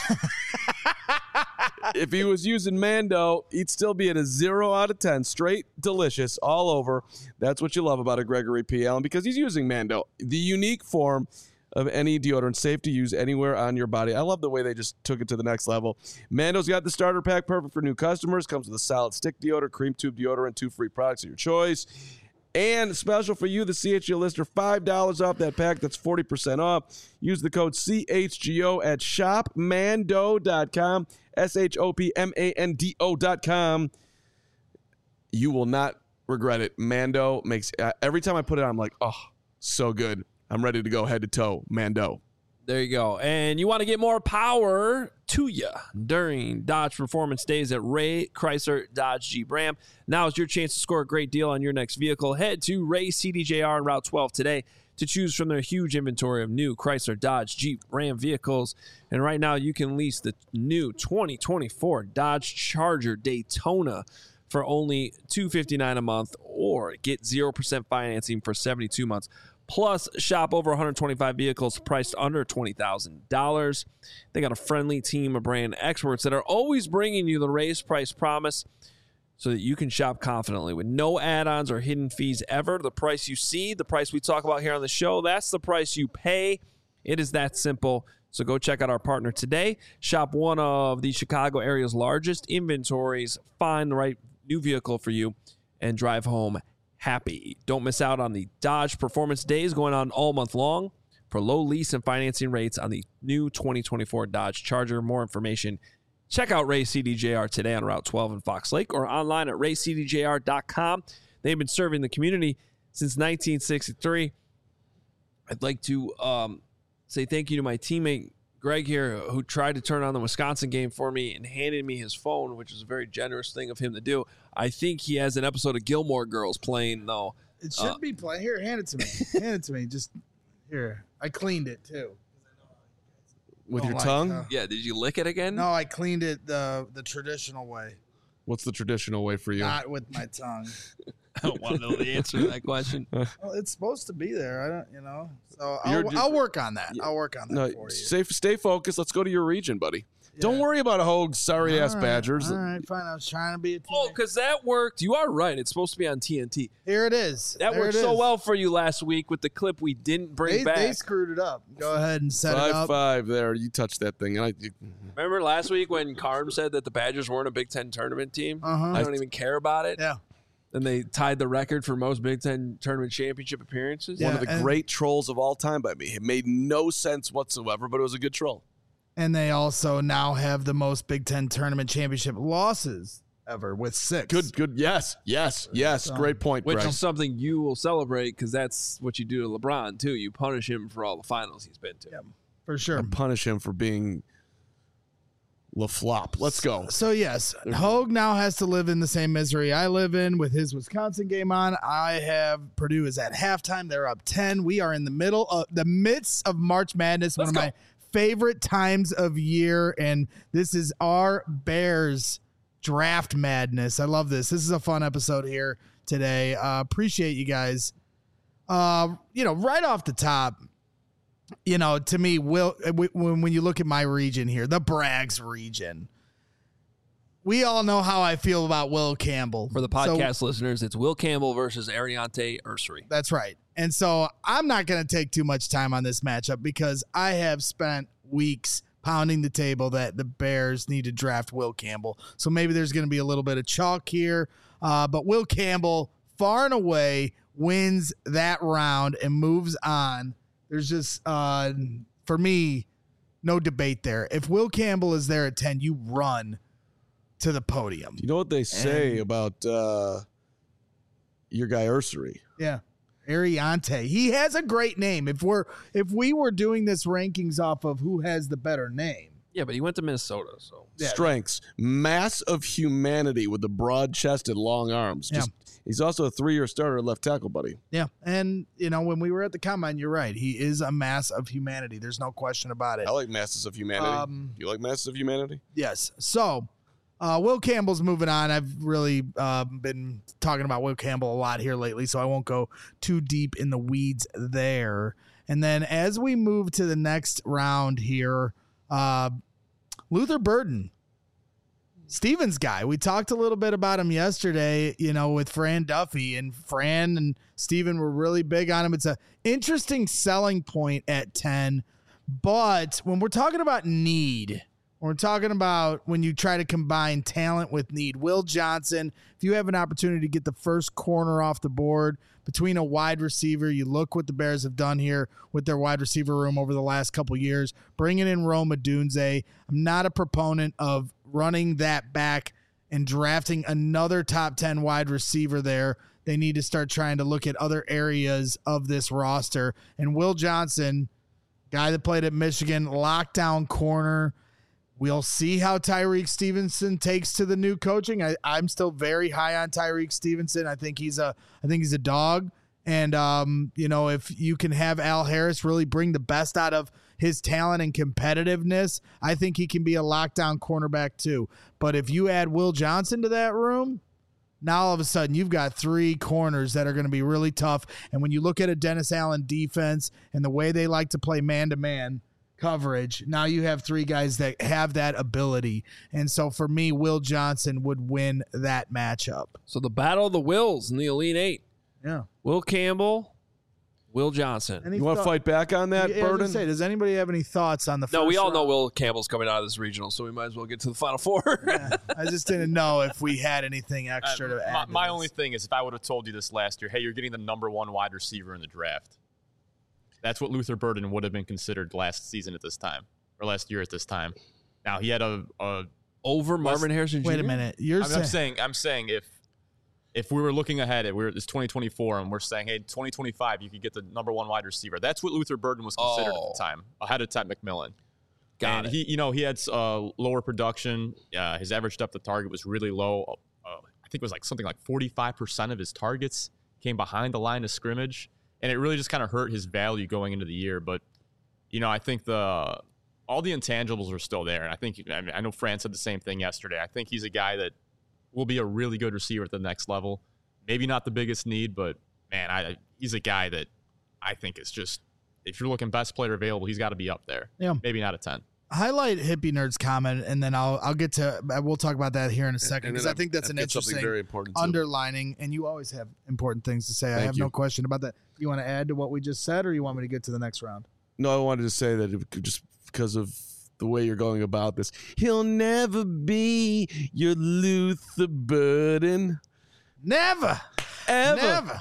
If he was using Mando, he'd still be at a zero out of ten. Straight delicious all over. That's what you love about a Gregory P. Allen because he's using Mando, the unique form of any deodorant, safe to use anywhere on your body. I love the way they just took it to the next level. Mando's got the starter pack, perfect for new customers. Comes with a solid stick deodorant, cream tube deodorant, two free products of your choice. And special for you, the C H G O listener, five dollars off that pack. That's forty percent off. Use the code C H G O at shop mando dot com, S H O P M A N D O dot com. You will not regret it. Mando makes, uh, every time I put it on, I'm like, oh, so good. I'm ready to go head to toe. Mando. there you go. And you want to get more power to you during Dodge Performance Days at Ray Chrysler Dodge Jeep Ram. Now is your chance to score a great deal on your next vehicle. Head to Ray C D J R on Route twelve today to choose from their huge inventory of new Chrysler Dodge Jeep Ram vehicles. And right now you can lease the new twenty twenty-four Dodge Charger Daytona for only two hundred fifty-nine dollars a month, or get zero percent financing for seventy-two months. Plus, shop over one hundred twenty-five vehicles priced under twenty thousand dollars. They got a friendly team of brand experts that are always bringing you the raised price promise so that you can shop confidently with no add-ons or hidden fees ever. The price you see, the price we talk about here on the show, that's the price you pay. It is that simple. So go check out our partner today. Shop one of the Chicago area's largest inventories. Find the right new vehicle for you and drive home happy. Don't miss out on the Dodge Performance Days going on all month long for low lease and financing rates on the new twenty twenty-four Dodge Charger. More information, check out Ray C D J R today on Route twelve in Fox Lake or online at ray c d j r dot com. They've been serving the community since nineteen sixty-three. I'd like to um, say thank you to my teammate Greg here, who tried to turn on the Wisconsin game for me and handed me his phone, which is a very generous thing of him to do. I think he has an episode of Gilmore Girls playing, though. It should Uh, be playing. Here, hand it to me. hand it to me. Just here. I cleaned it too. With Don't your like, tongue? uh, Yeah, did you lick it again? No, I cleaned it the the traditional way, What's the traditional way for you? not with my tongue. I don't want to know the answer to that question. Well, it's supposed to be there. I don't, you know. So You're I'll, ju- I'll work on that. I'll work on that No, for you. stay, stay focused. Let's go to your region, buddy. Don't Yeah. worry about a Hogue, sorry ass All right, Badgers. All right, fine. I was trying to be a teammate. Oh, because that worked. You are right. It's supposed to be on T N T. Here it is. That There worked it so is. well for you last week with the clip we didn't bring They, back. they screwed it up. Go ahead and set it Five up. five there. You touched that thing. And I, you- Remember last week when Carm said that the Badgers weren't a Big Ten tournament team? Uh-huh. I don't even care about it. Yeah. And they tied the record for most Big Ten tournament championship appearances. Yeah. one of the and- great trolls of all time by me. It made no sense whatsoever, but it was a good troll. And they also now have the most Big Ten tournament championship losses ever with six. Good, good. Yes, yes, yes. So- Great point, Which Greg. is something you will celebrate because that's what you do to LeBron, too. You punish him for all the finals he's been to. Yep. For sure. I punish him for being LaFlop. Let's go. So yes, Hogue now has to live in the same misery I live in with his Wisconsin game on. I have Purdue is at halftime. They're up ten. We are in the middle of the midst of March Madness, Let's one go. of my favorite times of year, and this is our Bears draft madness. I love this. This is a fun episode here today. Uh, appreciate you guys. Uh, you know, right off the top, you know, to me, Will, when when you look at my region here, the Braggs region, we all know how I feel about Will Campbell. For the podcast so, listeners, it's Will Campbell versus Ariante Ursery. That's right. And so I'm not going to take too much time on this matchup because I have spent weeks pounding the table that the Bears need to draft Will Campbell. So maybe there's going to be a little bit of chalk here. Uh, but Will Campbell, far and away, wins that round and moves on. There's just, uh, for me, no debate there. If Will Campbell is there at ten, you run to the podium. You know what they say and, about uh, your guy Ursery? Yeah. Ariante. He has a great name. If we're if we were doing this rankings off of who has the better name. Yeah, but he went to Minnesota, so yeah. Strengths. Mass of humanity with the broad chested long arms. Just yeah. He's also a three-year starter at left tackle, buddy. Yeah. And you know, when we were at the combine, you're right. He is a mass of humanity. There's no question about it. I like masses of humanity. Um, you like masses of humanity? Yes. So Uh, Will Campbell's moving on. I've really uh, been talking about Will Campbell a lot here lately, so I won't go too deep in the weeds there. And then as we move to the next round here, uh, Luther Burden, Steven's guy. We talked a little bit about him yesterday, you know, with Fran Duffy, and Fran and Steven were really big on him. It's a interesting selling point at ten, but when we're talking about need, we're talking about when you try to combine talent with need. Will Johnson, if you have an opportunity to get the first corner off the board between a wide receiver, you look what the Bears have done here with their wide receiver room over the last couple years, bringing in Rome Odunze. I'm not a proponent of running that back and drafting another top ten wide receiver there. They need to start trying to look at other areas of this roster. And Will Johnson, guy that played at Michigan, lockdown corner. We'll see how Tyreek Stevenson takes to the new coaching. I, I'm still very high on Tyreek Stevenson. I think he's a, I think he's a dog. And um, you know, if you can have Al Harris really bring the best out of his talent and competitiveness, I think he can be a lockdown cornerback too. But if you add Will Johnson to that room, now all of a sudden you've got three corners that are going to be really tough. And when you look at a Dennis Allen defense and the way they like to play man-to-man coverage, now you have three guys that have that ability. And so for me, Will Johnson would win that matchup. So the battle of the Wills in the Elite Eight. Yeah. Will Campbell, Will Johnson. Any You want to thought- fight back on that, Yeah, I was gonna Burden? say, does anybody have any thoughts on the No, first we all know round? Will Campbell's coming out of this regional, so we might as well get to the Final Four. Yeah, I just didn't know if we had anything extra Uh, to add. my to my this. only thing is if I would have told you this last year, hey, you're getting the number one wide receiver in the draft. That's what Luther Burden would have been considered last season at this time, or last year at this time. Now he had a, a Over Marvin Harrison Junior Wait a minute. You're I'm, saying, I'm saying I'm saying if if we were looking ahead at we're it's twenty twenty-four and we're saying, hey, twenty twenty-five, you could get the number one wide receiver. That's what Luther Burden was considered Oh. at the time, ahead of Ted McMillan. Got and it. he, you know, he had uh, lower production. Uh, his average depth of target was really low. Uh, I think it was like something like forty-five percent of his targets came behind the line of scrimmage, and it really just kind of hurt his value going into the year. But you know, I think the all the intangibles are still there, and I think I, mean, I know Fran said the same thing yesterday. I think he's a guy that will be a really good receiver at the next level. Maybe not the biggest need, but man, I, he's a guy that I think is just, if you're looking best player available, he's got to be up there. Yeah. Maybe not a ten. highlight Hippie Nerd's comment, and then I'll I'll get to we'll talk about that here in a second, And because then I think that's I've an got something interesting very important too. underlining, and you always have important things to say. I Thank have you. no question about that. You want to add to what we just said, or you want me to get to the next round? No, I wanted to say that it could just because of the way you're going about this, he'll never be your Luther Burden. Never, Ever. never.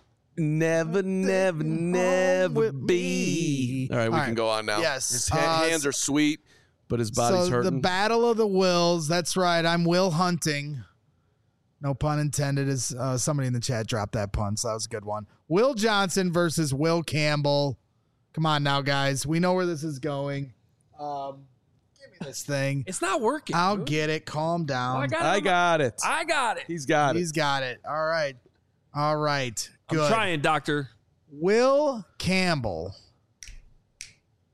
Never, never, never with be. me. All right, we All can right. go on now. Yes. His ha- Uh, hands are sweet, but his body's so hurting. the battle of the wills. That's right. I'm Will Hunting. No pun intended. As uh, somebody in the chat dropped that pun, so that was a good one. Will Johnson versus Will Campbell. Come on now, guys. We know where this is going. Um, give me this thing. It's not working. I'll dude. get it. Calm down. I got it. I got it. I got it. He's got He's it. got it. All right. All right. Good. I'm trying, Doctor. Will Campbell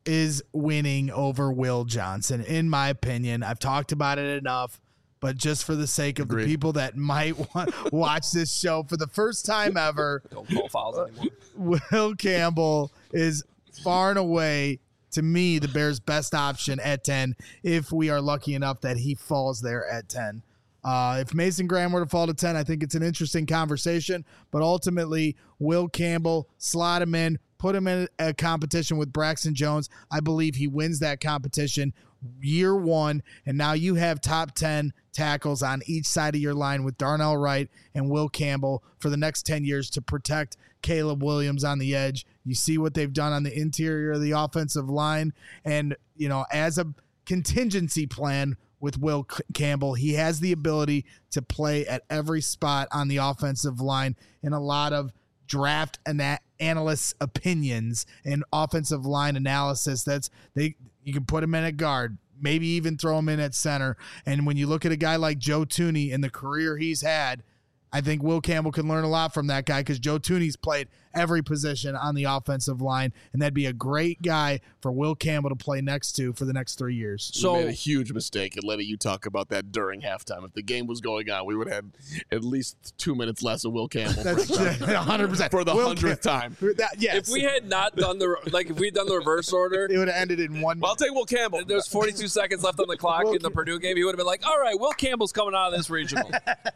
is winning over Will Johnson, in my opinion. I've talked about it enough, but just for the sake of Agreed. the people that might want watch this show for the first time ever, Don't call fouls anymore. Will Campbell is far and away, to me, the Bears' best option at ten if we are lucky enough that he falls there at ten. Uh, if Mason Graham were to fall to ten, I think it's an interesting conversation, but ultimately, Will Campbell, slot him in, put him in a competition with Braxton Jones. I believe he wins that competition year one, and now you have top ten tackles on each side of your line with Darnell Wright and Will Campbell for the next ten years to protect Caleb Williams on the edge. You see what they've done on the interior of the offensive line, and, you know, as a contingency plan with Will C- Campbell, he has the ability to play at every spot on the offensive line in a lot of draft ana- analysts' opinions and offensive line analysis. That's they you can put him in at guard, maybe even throw him in at center. And when you look at a guy like Joe Thuney and the career he's had, I think Will Campbell can learn a lot from that guy because Joe Thuney's played every position on the offensive line, and that'd be a great guy for Will Campbell to play next to for the next three years. We So made a huge mistake in letting you talk about that during halftime. If the game was going on, we would have at least two minutes less of Will Campbell That's one hundred percent. for the Will hundredth Cam- time. That, yes. if we had not done the like, if we'd done the reverse order, it would have ended in one. Well, I'll take Will Campbell. there's forty-two seconds left on the clock Will in the Cam- Purdue game. He would have been like, "All right, Will Campbell's coming out of this regional."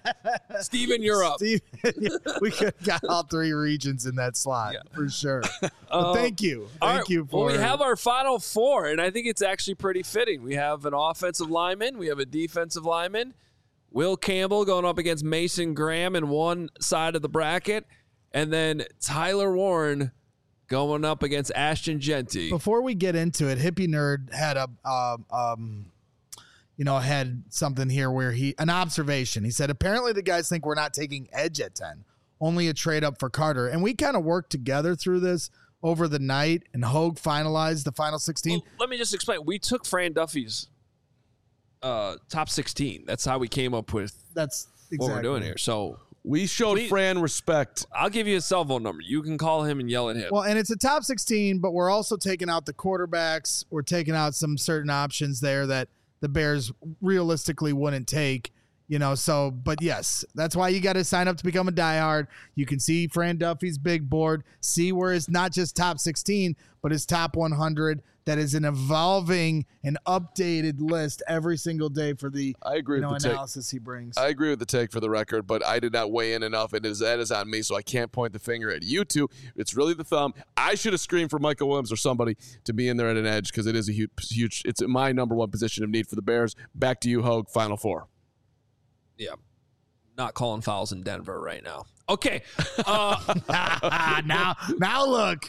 Steven, you're up. Steve, we could have got all three regions in that slot Yeah. for sure. But Uh, thank you. All Thank right, you for Well, we have our final four, and I think it's actually pretty fitting. We have an offensive lineman, we have a defensive lineman, Will Campbell going up against Mason Graham in one side of the bracket, and then Tyler Warren going up against Ashton Genty. Before we get into it, Hippie Nerd had a um, um you know, had something here where he an observation. He said apparently the guys think we're not taking edge at ten, only a trade up for Carter. And we kind of worked together through this over the night, and Hogue finalized the final sixteen. Well, let me just explain. We took Fran Duffy's uh, top sixteen. That's how we came up with That's exactly what we're doing here. So We showed We- Fran respect. I'll give you his cell phone number. You can call him and yell at him. Well, and it's a top sixteen, but we're also taking out the quarterbacks. We're taking out some certain options there that the Bears realistically wouldn't take, you know. So, but yes, that's why you got to sign up to become a diehard. You can see Fran Duffy's big board, see where it's not just top sixteen, but his top one hundred. That is an evolving and updated list every single day for the I agree you know, with the take. analysis he brings. I agree with the take for the record, but I did not weigh in enough, and it is, that is on me, so I can't point the finger at you two. It's really the thumb. I should have screamed for Michael Williams or somebody to be in there at an edge because it is a huge, huge. It's my number one position of need for the Bears. Back to you, Hogue. Final four. yeah. Not calling fouls in Denver right now. Okay. Uh, now, now look,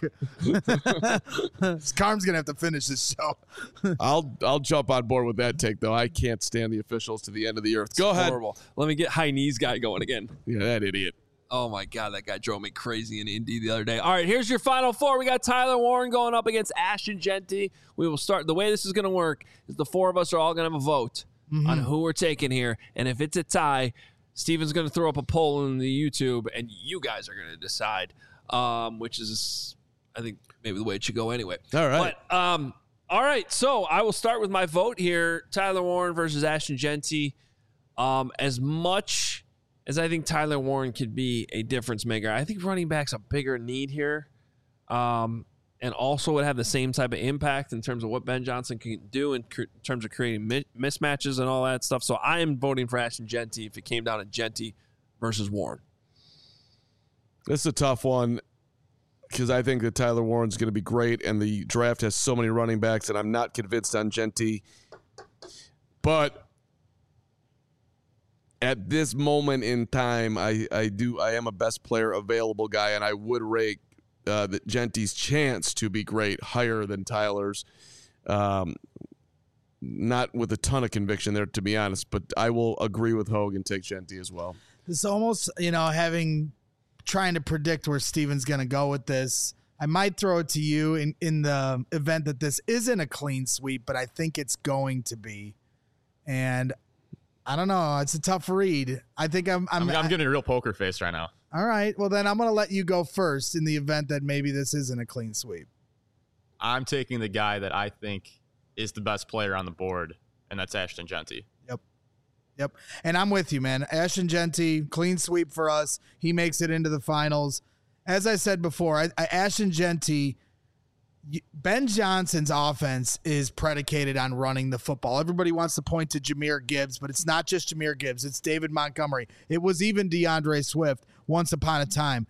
Carm's gonna have to finish this show. I'll I'll jump on board with that take though. I can't stand the officials to the end of the earth. Go ahead. horrible. Let me get high knees guy going again. Yeah, that idiot. Oh my God, that guy drove me crazy in Indy the other day. All right, here's your final four. We got Tyler Warren going up against Ashton Genty. We will start. The way this is going to work is the four of us are all going to have a vote Mm-hmm. on who we're taking here. And if it's a tie, Steven's going to throw up a poll in the YouTube, and you guys are going to decide, um, which is, I think, maybe the way it should go anyway. All right. But, um, all right, so I will start with my vote here. Tyler Warren versus Ashton Genty. Um, as much as I think Tyler Warren could be a difference maker, I think running back's a bigger need here, um, and also would have the same type of impact in terms of what Ben Johnson can do in, cr- in terms of creating mi- mismatches and all that stuff. So I am voting for Ashton Genty if it came down to Genty versus Warren. This is a tough one because I think that Tyler Warren's going to be great, and the draft has so many running backs, and I'm not convinced on Genty. But at this moment in time, I, I do I am a best player available guy, and I would rate uh, the Genty's chance to be great higher than Tyler's. Um, not with a ton of conviction there, to be honest, but I will agree with Hogue and take Genty as well. It's almost, you know, having trying to predict where Steven's going to go with this. I might throw it to you in, in the event that this isn't a clean sweep, but I think it's going to be. And I don't know. It's a tough read. I think I'm. I'm, I'm, I'm I- getting a real poker face right now. all right. Well, then I'm going to let you go first in the event that maybe this isn't a clean sweep. I'm taking the guy that I think is the best player on the board, and that's Ashton Genty. Yep. Yep. And I'm with you, man. Ashton Genty, clean sweep for us. He makes it into the finals. As I said before, I, I, Ashton Genty, Ben Johnson's offense is predicated on running the football. Everybody wants to point to Jahmyr Gibbs, but it's not just Jahmyr Gibbs. It's David Montgomery. It was even DeAndre Swift once upon a time.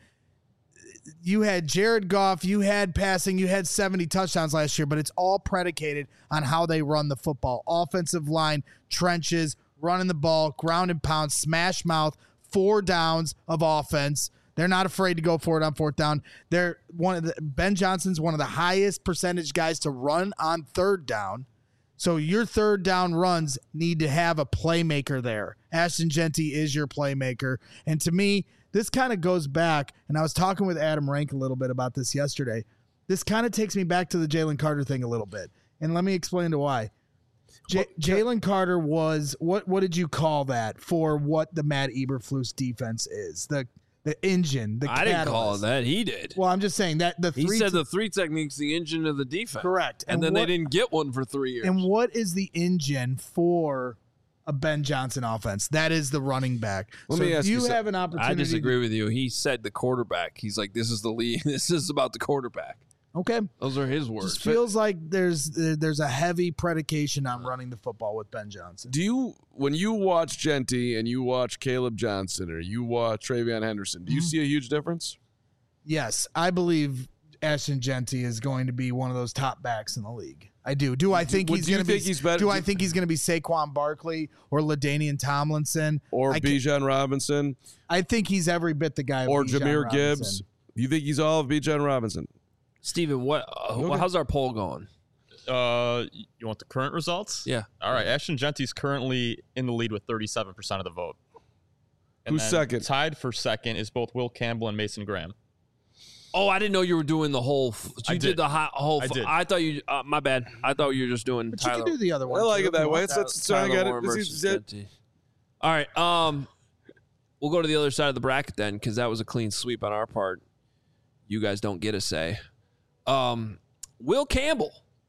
You had Jared Goff, you had passing, you had seventy touchdowns last year, but it's all predicated on how they run the football. Offensive line, trenches, running the ball, ground and pound, smash mouth, four downs of offense. They're not afraid to go for it on fourth down. They're one of the Ben Johnson's one of the highest percentage guys to run on third down. So your third down runs need to have a playmaker there. Ashton Genty is your playmaker. And to me, this kind of goes back, and I was talking with Adam Rank a little bit about this yesterday. This kind of takes me back to the Jalen Carter thing a little bit. And let me explain to why. J- Jalen Carter was, what what did you call that for what the Matt Eberflus defense is? The the engine, the I catalyst. didn't call it that. He did. Well, I'm just saying that the He three said te- the three technique's the engine of the defense. correct. And, then what, they didn't get one for three years. And what is the engine for a Ben Johnson offense? That is the running back. Let so me if ask you you something. have an opportunity. I disagree with you. He said the quarterback. He's like, this is the lead. This is about the quarterback. Okay. Those are his words. Just feels like there's there's a heavy predication on running the football with Ben Johnson. Do you, when you watch Genty and you watch Caleb Johnson or you watch Travion Henderson, do you Mm-hmm. see a huge difference? Yes, I believe Ashton Genty is going to be one of those top backs in the league. I do. Do I think What, he's do you going to be? think he's better- Do I think he's going to be Saquon Barkley or LaDainian Tomlinson Or I ca- Bijan Robinson I think he's every bit the guy. of or Bijan Jahmyr Robinson. Gibbs? Do you think he's all of Bijan Robinson? Steven, what? Uh, Okay. how's our poll going? Uh, you want the current results? Yeah. All right. Ashton Genty's currently in the lead with thirty-seven percent of the vote. And Who's then second? Tied for second is both Will Campbell and Mason Graham. Oh, I didn't know you were doing the whole. F- you I did. did. the hot, whole. I F- did. I thought you. Uh, my bad. I thought you were just doing But Tyler. you can do the other one. I like too, it if that you way. want. Let's, let's try and Tyler get it. Warren This versus is it. Genty. All right. Um, we'll go to the other side of the bracket then, because that was a clean sweep on our part. You guys don't get a say. Um, Will Campbell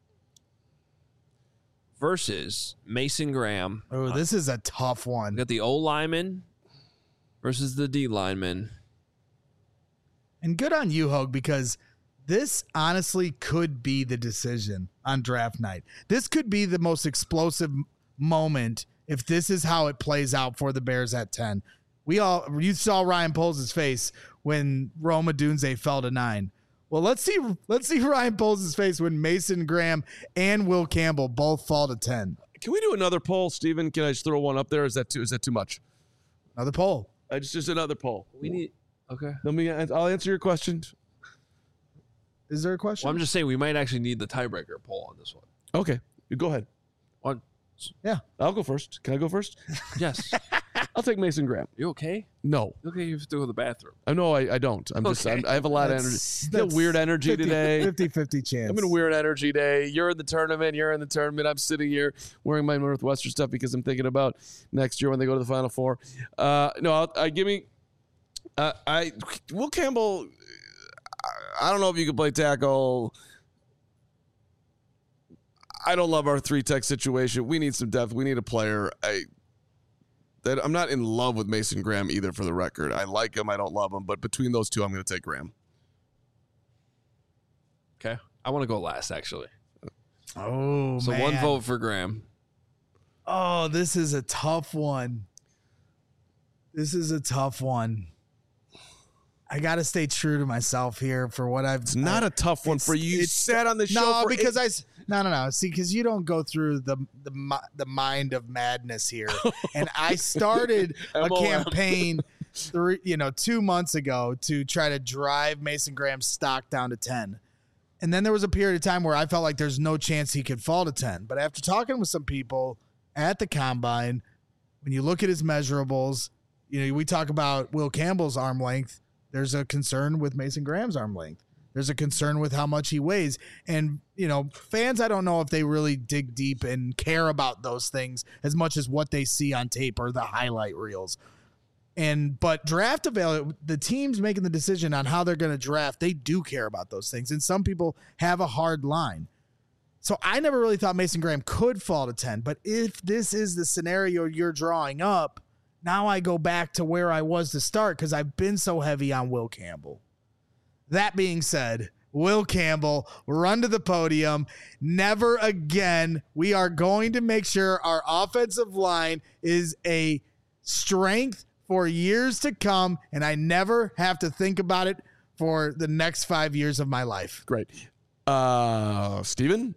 versus Mason Graham. Oh, this is a tough We one. got the O lineman versus the D lineman. And good on you, Hogue, because this honestly could be the decision on draft night. This could be the most explosive m- moment if this is how it plays out for the Bears at ten. We all you saw Ryan Poles' face when Roma Dunze fell to nine. Well, let's see let's see Ryan Poles' face when Mason Graham and Will Campbell both fall to ten. Can we do another poll, Steven? Can I just throw one up there? Is that too? Is that too much? Another poll. I just just another poll. We need. Okay. Let me. I'll answer your question. Is there a question? Well, I'm just saying we might actually need the tiebreaker poll on this one. Okay, you go ahead. One. yeah. I'll go first. Can I go first? Yes. I'll take Mason Graham. You okay? No, You okay? You have to go to the bathroom. I know I, I don't. I'm just. Okay. I'm, I have a lot of energy. That's- You got that's weird energy fifty today. fifty-fifty chance. I'm in a weird energy day. You're in the tournament. You're in the tournament. I'm sitting here wearing my Northwestern stuff because I'm thinking about next year when they go to the Final Four. Uh, no, I'll, I give me. Uh, I Will Campbell. I don't know if you can play tackle. I don't love our three tech situation. We need some depth. We need a player. I that I'm not in love with Mason Graham either. For the record, I like him. I don't love him, but between those two, I'm going to take Graham. Okay. I want to go last, actually. Oh, So man. one vote for Graham. Oh, this is a tough one. This is a tough one. I got to stay true to myself here for what I've. It's not a tough one it's- for you. You it's- sat on the show No, for because eight- I s- no no no. See, because you don't go through the the mi- the mind of madness here, and I started a M O M. campaign, three you know, two months ago to try to drive Mason Graham's stock down to ten, and then there was a period of time where I felt like there's no chance he could fall to ten. But after talking with some people at the combine, when you look at his measurables, you know, we talk about Will Campbell's arm length. There's a concern with Mason Graham's arm length. There's a concern with how much he weighs. And, you know, fans, I don't know if they really dig deep and care about those things as much as what they see on tape or the highlight reels. And but draft avail the teams making the decision on how they're going to draft, they do care about those things. And some people have a hard line. So I never really thought Mason Graham could fall to ten. But if this is the scenario you're drawing up, now I go back to where I was to start because I've been so heavy on Will Campbell. That being said, Will Campbell, run to the podium. Never again. We are going to make sure our offensive line is a strength for years to come, and I never have to think about it for the next five years of my life. Great. Uh, Steven?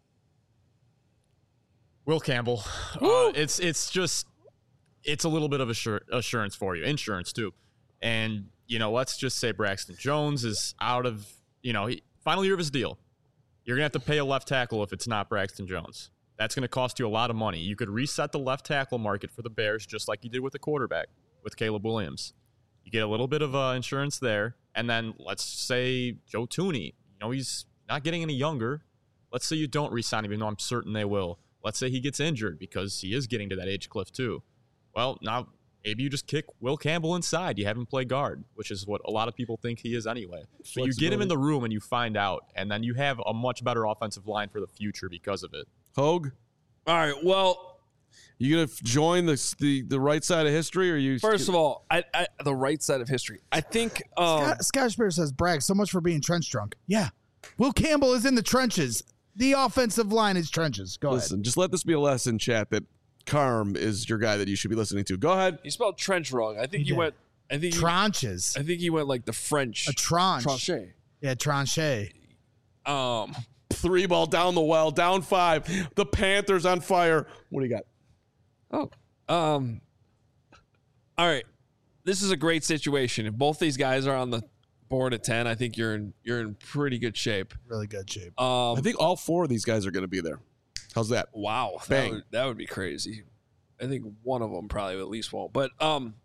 Will Campbell. Uh, it's it's just it's a little bit of assur- assurance for you, insurance too. And you know, let's just say Braxton Jones is out of you know he, final year of his deal. You're gonna have to pay a left tackle if it's not Braxton Jones. That's gonna cost you a lot of money. You could reset the left tackle market for the Bears just like you did with the quarterback with Caleb Williams. You get a little bit of uh, insurance there, and then let's say Joe Thuney. You know, he's not getting any younger. Let's say you don't re-sign him, even though I'm certain they will. Let's say he gets injured because he is getting to that age cliff too. Well, now maybe you just kick Will Campbell inside. You have him play guard, which is what a lot of people think he is anyway. But you get him in the room and you find out, and then you have a much better offensive line for the future because of it. Hogue? All right, well, You gonna join the the the right side of history, or you? first of all, I, I the right side of history. I think um, Scott, Scott Spear says, Bragg, so much for being trench drunk. Yeah. Will Campbell is in the trenches. The offensive line is trenches. Go Listen, ahead. just let this be a lesson, chat, that Carm is your guy that you should be listening to. Go ahead. you spelled trench wrong. I think He you did. went. I think you, Tranches. I think you went like the French. A tranche. Tranche. Yeah, tranche. Um. Three ball down the well, down five. The Panthers on fire. What do you got? Oh. Um. All right. This is a great situation. If both these guys are on the board at ten, I think you're in you're in pretty good shape. Really good shape. Um. I think all four of these guys are going to be there. How's that? Wow. That Bang. would, that would be crazy. I think one of them probably at least won't. But um,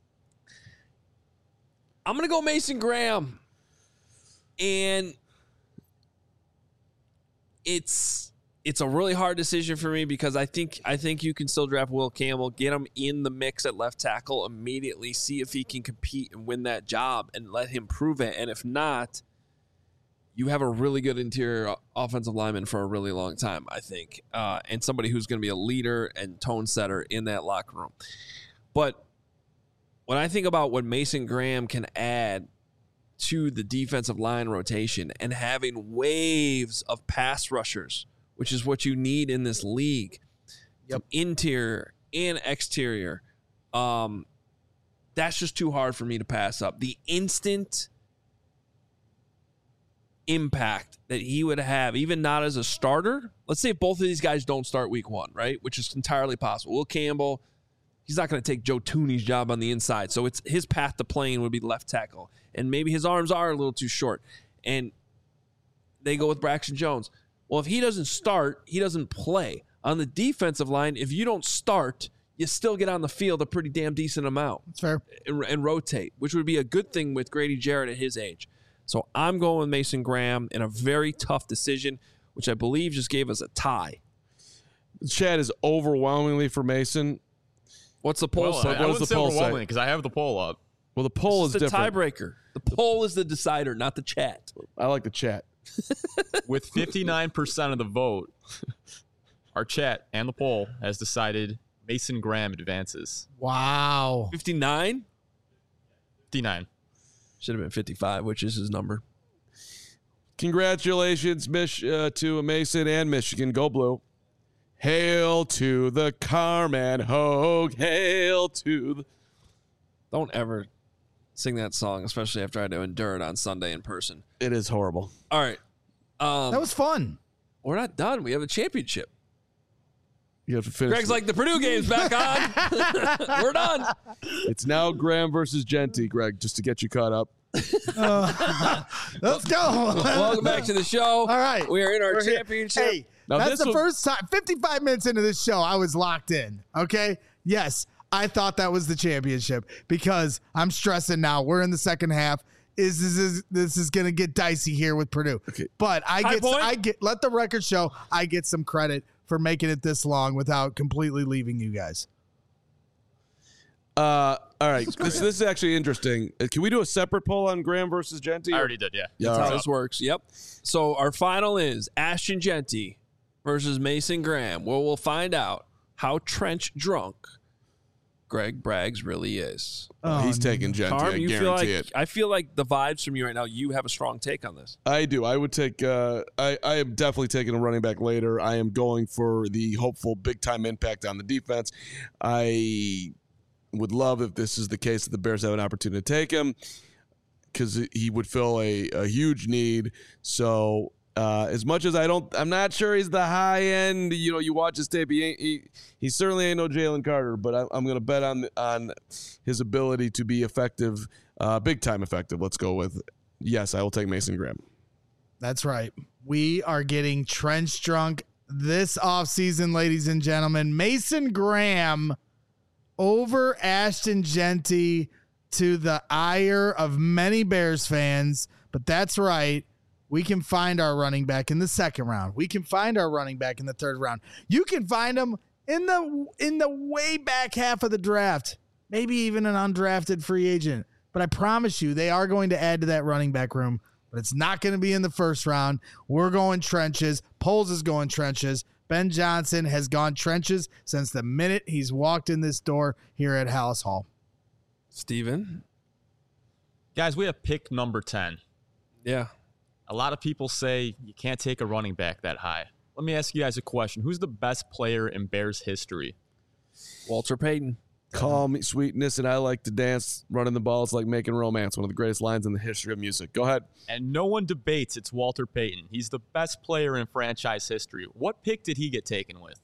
I'm gonna go Mason Graham, and it's it's a really hard decision for me because I think I think you can still draft Will Campbell, get him in the mix at left tackle immediately, see if he can compete and win that job, and let him prove it. And if not, you have a really good interior offensive lineman for a really long time, I think, uh, and somebody who's going to be a leader and tone setter in that locker room. But when I think about what Mason Graham can add to the defensive line rotation and having waves of pass rushers, which is what you need in this league, Yep. interior and exterior, um, that's just too hard for me to pass up. The instant impact that he would have, even not as a starter. Let's say both of these guys don't start week one, right? Which is entirely possible. Will Campbell, he's not going to take Joe Thuney's job on the inside. So it's his path to playing would be left tackle. And maybe his arms are a little too short. And they go with Braxton Jones. Well, if he doesn't start, he doesn't play. On the defensive line, if you don't start, you still get on the field a pretty damn decent amount. That's fair. And, and rotate, which would be a good thing with Grady Jarrett at his age. So I'm going with Mason Graham in a very tough decision, which I believe just gave us a tie. Chad is overwhelmingly for Mason. What's the poll Well, say? I, what I does wouldn't the say poll say? overwhelming because I have the poll up. Well, the poll It's is the different. tiebreaker. The poll is the decider, not the chat. I like the chat. With fifty-nine percent of the vote, our chat and the poll has decided Mason Graham advances. Wow. fifty-nine? fifty-nine. Should have been fifty-five, which is his number. Congratulations, Mich- uh, to Mason and Michigan. Go Blue. Hail to the Carman Hogue. Hail to the... Don't ever sing that song, especially after I had to endure it on Sunday in person. It is horrible. All right. Um, That was fun. we're not done. We have a championship. You have to finish. Greg's the- like, the Purdue game's back on. We're done. It's now Graham versus Genty, Greg, just to get you caught up. Let's go. Welcome back to the show. All right. We are in our We're here. championship. Hey, Now that's this the will- first time. fifty-five minutes into this show, I was locked in. Okay. Yes, I thought that was the championship because I'm stressing now. We're in the second half. Is this is this is gonna get dicey here with Purdue? Okay. But I High get point. I get let the record show I get some credit for making it this long without completely leaving you guys. Uh, all right. This, this is actually interesting. Uh, Can we do a separate poll on Graham versus Genty? I already did, yeah. Yeah, That's all how right. this works. Yep. So our final is Ashton Genty versus Mason Graham, where we'll find out how trench drunk Greg Braggs really is. Oh, he's taking Genty. Carm, I you guarantee feel like it. I feel like the vibes from you right now. You have a strong take on this. I do. I would take. Uh, I I am definitely taking a running back later. I am going for the hopeful big time impact on the defense. I would love if this is the case that the Bears have an opportunity to take him because he would fill a, a huge need. So uh, as much as I don't, I'm not sure he's the high end. You know, you watch his tape. He ain't, he, he certainly ain't no Jalen Carter. But I, I'm going to bet on on his ability to be effective, uh, big time effective. Let's go with yes. I will take Mason Graham. That's right. We are getting trench drunk this offseason, ladies and gentlemen. Mason Graham over Ashton Genty to the ire of many Bears fans. But that's right. We can find our running back in the second round. We can find our running back in the third round. You can find him in the in the way back half of the draft. Maybe even an undrafted free agent. But I promise you, they are going to add to that running back room. But it's not going to be in the first round. We're going trenches. Poles is going trenches. Ben Johnson has gone trenches since the minute he's walked in this door here at Hallis Hall. Steven? Guys, we have pick number ten. Yeah. A lot of people say you can't take a running back that high. Let me ask you guys a question. Who's the best player in Bears history? Walter Payton. Call me sweetness, and I like to dance. Running the ball is like making romance. One of the greatest lines in the history of music. Go ahead. And no one debates it's Walter Payton. He's the best player in franchise history. What pick did he get taken with?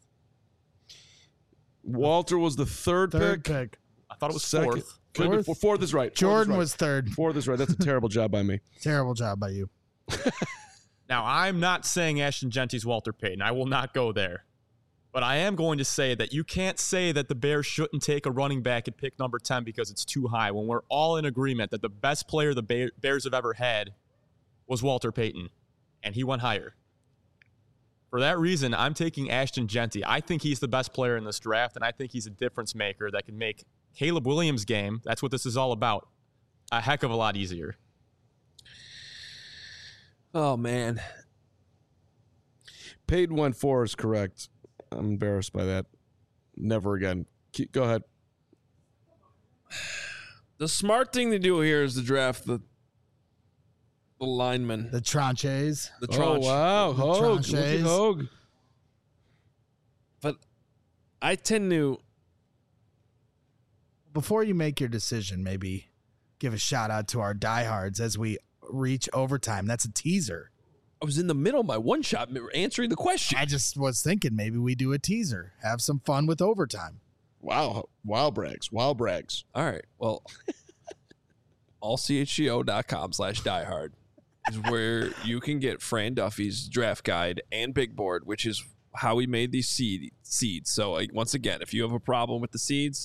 Walter was the third, Third pick. pick. I thought it was Second. fourth. Could have been fourth. Fourth is right. Jordan fourth is right. was third. Fourth is right. That's a terrible job by me. Terrible job by you. Now, I'm not saying Ashton Genty's Walter Payton. I will not go there. But I am going to say that you can't say that the Bears shouldn't take a running back at pick number ten because it's too high when we're all in agreement that the best player the Bear- Bears have ever had was Walter Payton, and he went higher. For that reason, I'm taking Ashton Genty. I think he's the best player in this draft, and I think he's a difference maker that can make Caleb Williams' game, that's what this is all about, a heck of a lot easier. Oh, man. Payton went four is correct. I'm embarrassed by that. Never again. Keep, go ahead. The smart thing to do here is to draft the the lineman. The tranches. The Oh, tranche. wow. Hogue. Look at tranches. Hogue. But I tend to... Before you make your decision, maybe give a shout out to our diehards as we reach overtime. That's a teaser. I was in the middle of my one shot answering the question. I just was thinking maybe we do a teaser. Have some fun with overtime. Wow. Wild brags. Wild brags. All right. Well, allchgo.com slash diehard is where you can get Fran Duffy's draft guide and big board, which is how we made these seed seeds. So like, once again, if you have a problem with the seeds,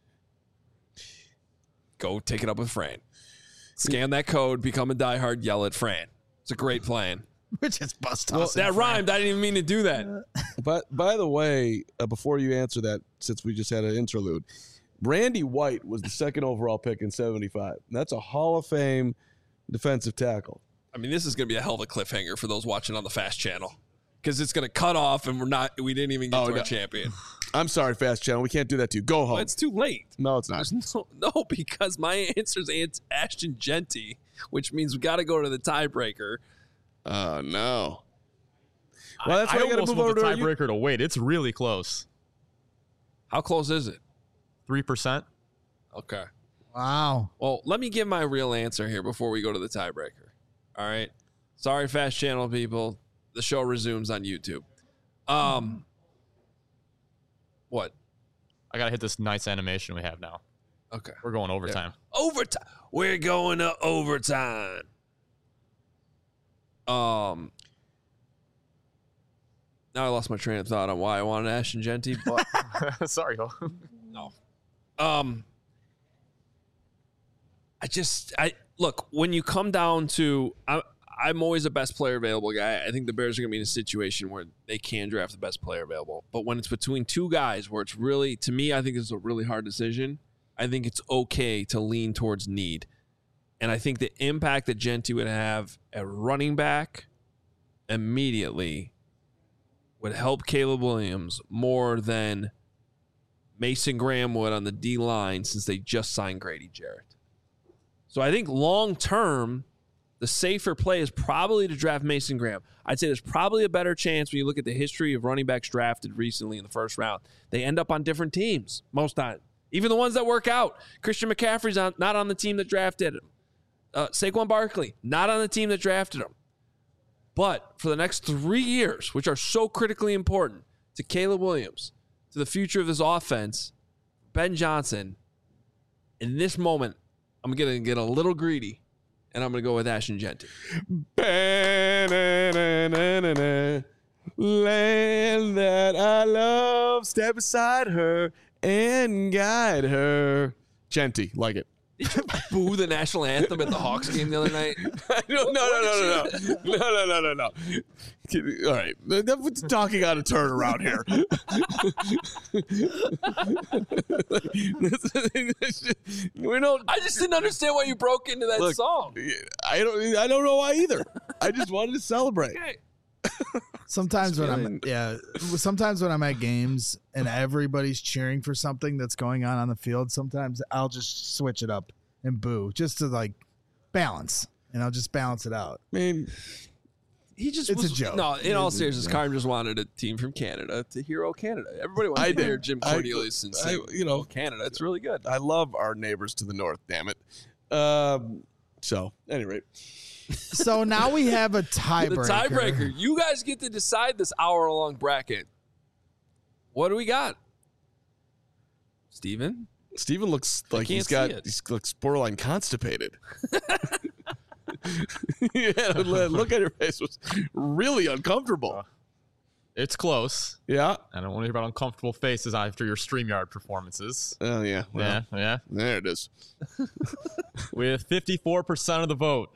go take it up with Fran. Scan that code, become a diehard, yell at Fran. It's a great plan. We're just bust Well, tossing that Fran. rhymed. I didn't even mean to do that. But by the way, uh, before you answer that, since we just had an interlude, Randy White was the second overall pick in seventy-five. That's a Hall of Fame defensive tackle. I mean, this is going to be a hell of a cliffhanger for those watching on the Fast Channel because it's going to cut off and we're not. We didn't even get Oh, to no. our champion. I'm sorry, Fast Channel. We can't do that to you. Go home. Well, it's too late. no, it's not. There's no, no, because my answer is Ashton Genty, which means we got to go to the tiebreaker. Oh, no. Well, that's I, why I you got to almost move want over the to you. tiebreaker to wait. It's really close. How close is it? three percent. Okay. Wow. Well, let me give my real answer here before we go to the tiebreaker. All right. Sorry, Fast Channel people. The show resumes on YouTube. Um, what? I got to hit this nice animation we have now. Okay. We're going overtime. Overtime. We're going to overtime. Um. Now I lost my train of thought on why I wanted Ashton Genty, but Sorry, Ho. no. Um. I just I look when you come down to I I'm always a best player available guy. I think the Bears are going to be in a situation where they can draft the best player available. But when it's between two guys where it's really, to me, I think it's a really hard decision. I think it's okay to lean towards need. And I think the impact that Genty would have at running back immediately would help Caleb Williams more than Mason Graham would on the D line since they just signed Grady Jarrett. So I think long term, the safer play is probably to draft Mason Graham. I'd say there's probably a better chance when you look at the history of running backs drafted recently in the first round. They end up on different teams most times. Even the ones that work out. Christian McCaffrey's on, not on the team that drafted him. Uh, Saquon Barkley, not on the team that drafted him. But for the next three years, which are so critically important to Caleb Williams, to the future of this offense, Ben Johnson, in this moment, I'm going to get a little greedy, and I'm going to go with Ashton Genty. Land that I love, step beside her and guide her. Genty, like it. Did you boo the national anthem at the Hawks game the other night? no, no, no, no, no, no, no, no, no, no. All right, that's talking out of turn around here. we don't. I just didn't understand why you broke into that Look, song. I don't. I don't know why either. I just wanted to celebrate. Okay. Sometimes when I'm yeah, sometimes when I'm at games and everybody's cheering for something that's going on on the field, sometimes I'll just switch it up and boo just to like balance, and I'll just balance it out. I mean, he just it's was, a joke. No, in all seriousness, Carm just wanted a team from Canada to hero Canada. Everybody wants I to did. hear Jim I- Cornelius and I- say, you know, Canada. It's really good. I love our neighbors to the north. Damn it. Um. So, at any rate, So now we have a The tiebreaker. tiebreaker. You guys get to decide this hour-long bracket. What do we got? Steven? Steven looks like can't he's got see it. he looks borderline constipated. Yeah, look at your face. It was really uncomfortable. It's close. Yeah. I don't want to hear about uncomfortable faces after your StreamYard performances. Oh yeah. Well, Yeah, yeah. There it is. With fifty-four percent of the vote,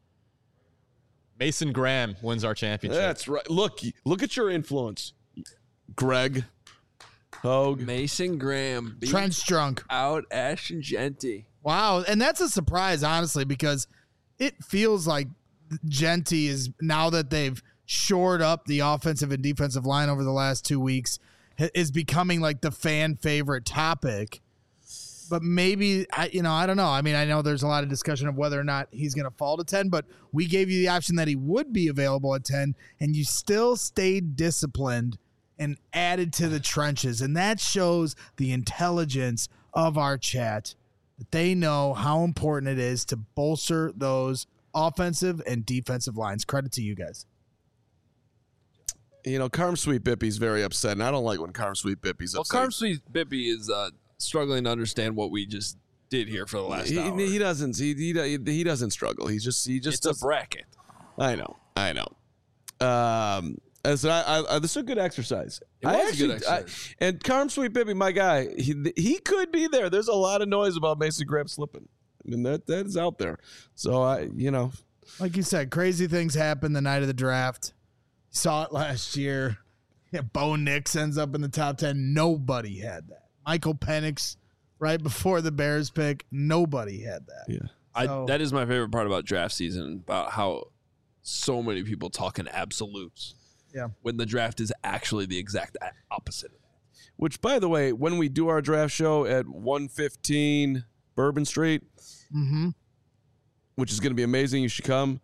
Mason Graham wins our championship. That's right. Look, look at your influence, Greg, Hogue. Mason Graham beat Trench drunk. out Ashton Genty. Wow, and that's a surprise, honestly, because it feels like Genty is, now that they've shored up the offensive and defensive line over the last two weeks, ha- is becoming like the fan favorite topic. But maybe, I, you know, I don't know. I mean, I know there's a lot of discussion of whether or not he's going to fall to ten, but we gave you the option that he would be available at ten, and you still stayed disciplined and added to the trenches. And that shows the intelligence of our chat, that they know how important it is to bolster those offensive and defensive lines. Credit to you guys. You know, Carm Sweet Bippy's very upset, and I don't like when Carm Sweet Bippy's Well, upset. Carm Sweet Bippy is uh, struggling to understand what we just did here for the last he, hour. he doesn't. He, he he doesn't struggle. He just he just it's a does. bracket. I know. I know. Um. And so I, I, I, this is a good exercise. It I was a good I- exercise. and Carm Sweet Bippy, my guy, he he could be there. There's a lot of noise about Mason Graham slipping. I mean that that is out there. So I, you know, Like you said, crazy things happen the night of the draft. You saw it last year. Yeah, Bo Nix ends up in the top ten. Nobody had that. Michael Penix right before the Bears pick. Nobody had that. yeah. I, So- that is my favorite part about draft season, about how so many people talk in absolutes. Yeah. When the draft is actually the exact a- opposite. Which, by the way, when we do our draft show at one fifteen Bourbon Street, Mm-hmm. which is going to be amazing, you should come.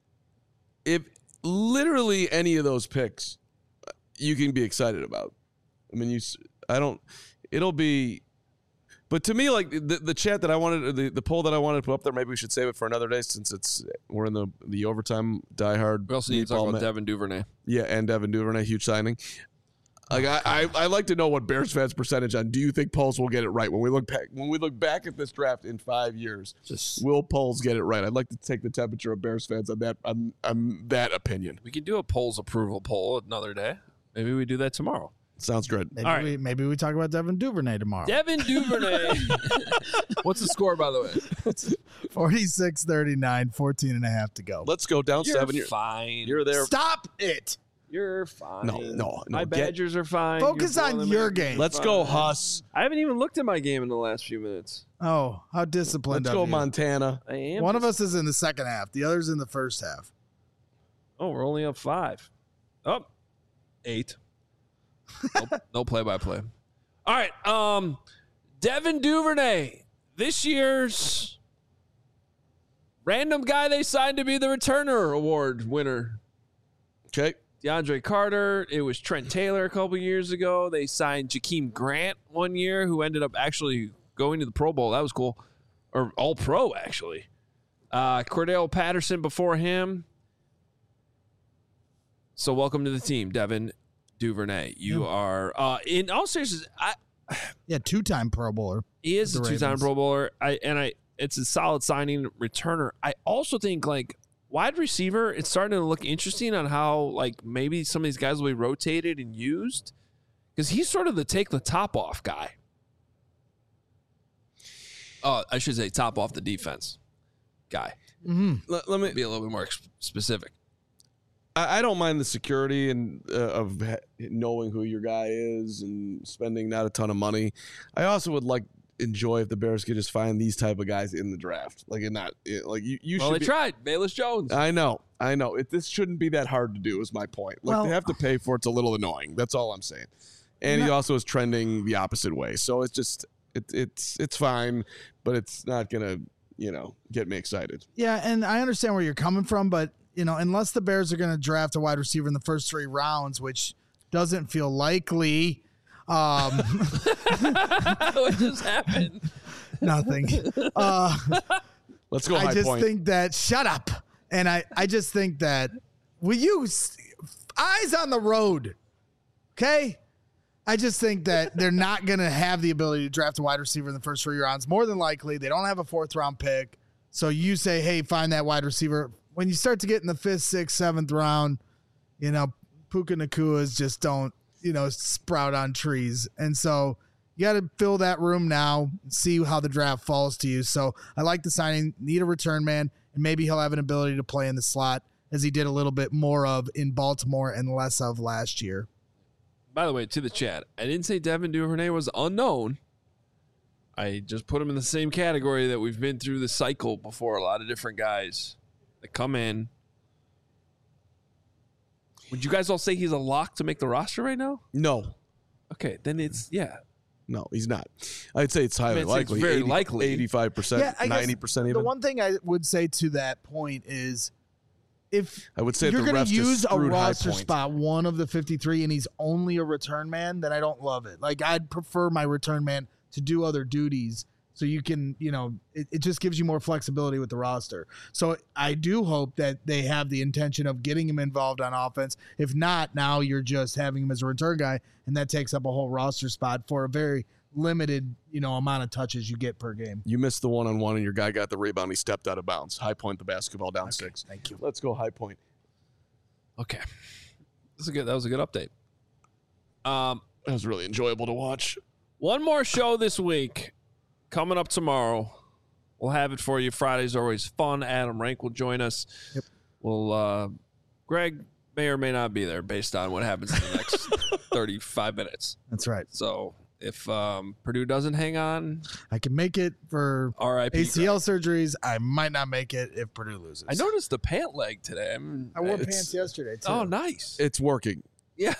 If literally any of those picks you can be excited about. I mean, you, s- I don't, it'll be, but to me, like the, the chat that I wanted, the, the poll that I wanted to put up there, maybe we should save it for another day since it's, we're in the, the overtime diehard. We also need to talk meatball about ma- Devin Duvernay. Yeah, and Devin Duvernay, huge signing. Like I, I, I like to know what Bears fans' percentage on. Do you think Poles will get it right when we look back? When we look back at this draft in five years, Just will Poles get it right? I'd like to take the temperature of Bears fans on that on, on that opinion. we could do a polls approval poll another day. Maybe we do that tomorrow. Sounds good. Maybe, All right. we, maybe we talk about Devin Duvernay tomorrow. Devin Duvernay. What's the score, by the way? forty-six thirty-nine, fourteen and a half to go. Let's go down You're seven. You're, fine. you're there. Stop it. You're fine. No, no, no. My Get- Badgers are fine. Focus Your on Boilermakers your are game. Let's fine. go, Huss. I haven't even looked at my game in the last few minutes. Oh, how disciplined Let's of go, you. Montana. I am. One of us is in the second half. The other's in the first half. Oh, we're only up five. Up oh, eight. no, no play-by-play. All right. Um, Devin Duvernay, this year's random guy they signed to be the returner award winner. Okay. DeAndre Carter. It was Trent Taylor a couple years ago. They signed Jakeem Grant one year, who ended up actually going to the Pro Bowl. That was cool. Or All-Pro, actually. Uh, Cordell Patterson before him. So welcome to the team, Devin Duvernay. You Yeah. are, uh, in all seriousness, I, Yeah, two-time Pro Bowler. he is a The two-time Ravens. Pro Bowler. I and I, it's a solid signing returner. I also think like wide receiver, it's starting to look interesting on how like maybe some of these guys will be rotated and used because he's sort of the take the top off guy. Oh, I should say top off the defense guy. Mm-hmm. Let, let me. Be a little bit more ex- specific. I, I don't mind the security and uh, of ha- knowing who your guy is and spending not a ton of money. I also would like enjoy if the Bears could just find these type of guys in the draft, like and not it, like you. You Well, should they be, tried. Bayless Jones. I know, I know. It, this shouldn't be that hard to do. Is my point. Like Well- they have to pay for it. It's a little annoying. That's all I'm saying. And he Not- also is trending the opposite way. So it's just it, it's it's fine, but it's not gonna you know get me excited. Yeah, and I understand where you're coming from, but you know, unless the Bears are going to draft a wide receiver in the first three rounds, which doesn't feel likely, um, what just happened? nothing. Uh, Let's go. I High just point. think that shut up, and I I just think that we use eyes on the road, okay. I just think that they're not going to have the ability to draft a wide receiver in the first three rounds. More than likely, they don't have a fourth round pick. So you say, hey, find that wide receiver. When you start to get in the fifth, sixth, seventh round, you know, Puka Nakuas just don't, you know, sprout on trees. And so you got to fill that room now and see how the draft falls to you. So I like the signing, need a return man, and maybe he'll have an ability to play in the slot as he did a little bit more of in Baltimore and less of last year. By the way, to the chat, I didn't say Devin Duvernay was unknown. I just put him in the same category that we've been through the cycle before. A lot of different guys that come in. Would you guys all say he's a lock to make the roster right now? no. Okay, then it's, yeah. No, he's not. I'd say it's highly I mean, it's- it's likely. very eighty, likely. eighty-five percent, Yeah, I guess ninety percent The even. one thing I would say to that point is if I would say you're the going refs to just use a screwed High roster Point. spot, one of the fifty-three, and he's only a return man, then I don't love it. Like, I'd prefer my return man to do other duties so you can, you know, it, it just gives you more flexibility with the roster. So I do hope that they have the intention of getting him involved on offense. If not, now you're just having him as a return guy, and that takes up a whole roster spot for a very limited, you know, amount of touches you get per game. You missed the one-on-one, and your guy got the rebound. He stepped out of bounds. High Point the basketball down six. Thank you. Let's go High Point. Okay. That's a good, that was a good update. Um, That was really enjoyable to watch. One more show this week coming up tomorrow. We'll have it for you. Fridays are always fun. Adam Rank will join us. Yep. We'll, uh, Greg may or may not be there based on what happens in the next thirty-five minutes. That's right. So if um, Purdue doesn't hang on, I can make it for R I P. A C L surgeries. I might not make it if Purdue loses. I noticed the pant leg today. I'm, I wore It's- pants yesterday too. Oh, nice. It's working. Yeah.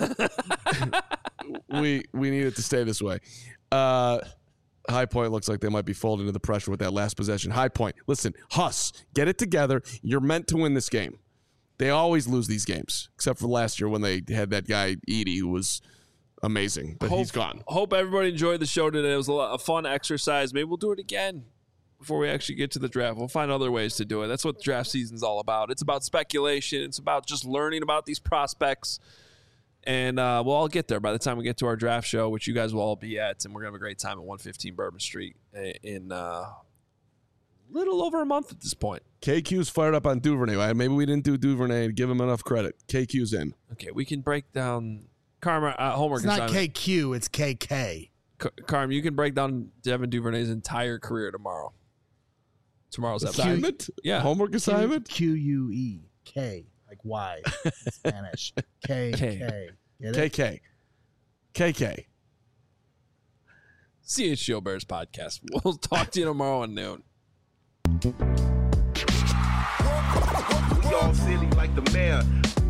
we we need it to stay this way. Uh, High Point looks like they might be folding into the pressure with that last possession. High Point, listen, Huss, get it together. You're meant to win this game. They always lose these games, except for last year when they had that guy Edie who was amazing, but hope, he's gone. Hope everybody enjoyed the show today. It was a, lot, a fun exercise. Maybe we'll do it again before we actually get to the draft. We'll find other ways to do it. That's what the draft season's all about. It's about speculation. It's about just learning about these prospects. And uh, we'll all get there by the time we get to our draft show, which you guys will all be at. And we're going to have a great time at one fifteen Bourbon Street in a uh, little over a month at this point. K Q's fired up on Duvernay. Maybe we didn't do Duvernay and give him enough credit. K Q's in. Okay, we can break down Karma uh, homework. It's not assignment. K Q, it's K K. K- Carm, you can break down Devin Duvernay's entire career tomorrow. Tomorrow's episode. Assignment? Yeah. Homework assignment? Q U E K. Like Y in Spanish. K K. K. Get K it? K. K K. C H G O Bears podcast. We'll talk to you tomorrow at noon. We all silly like the mayor.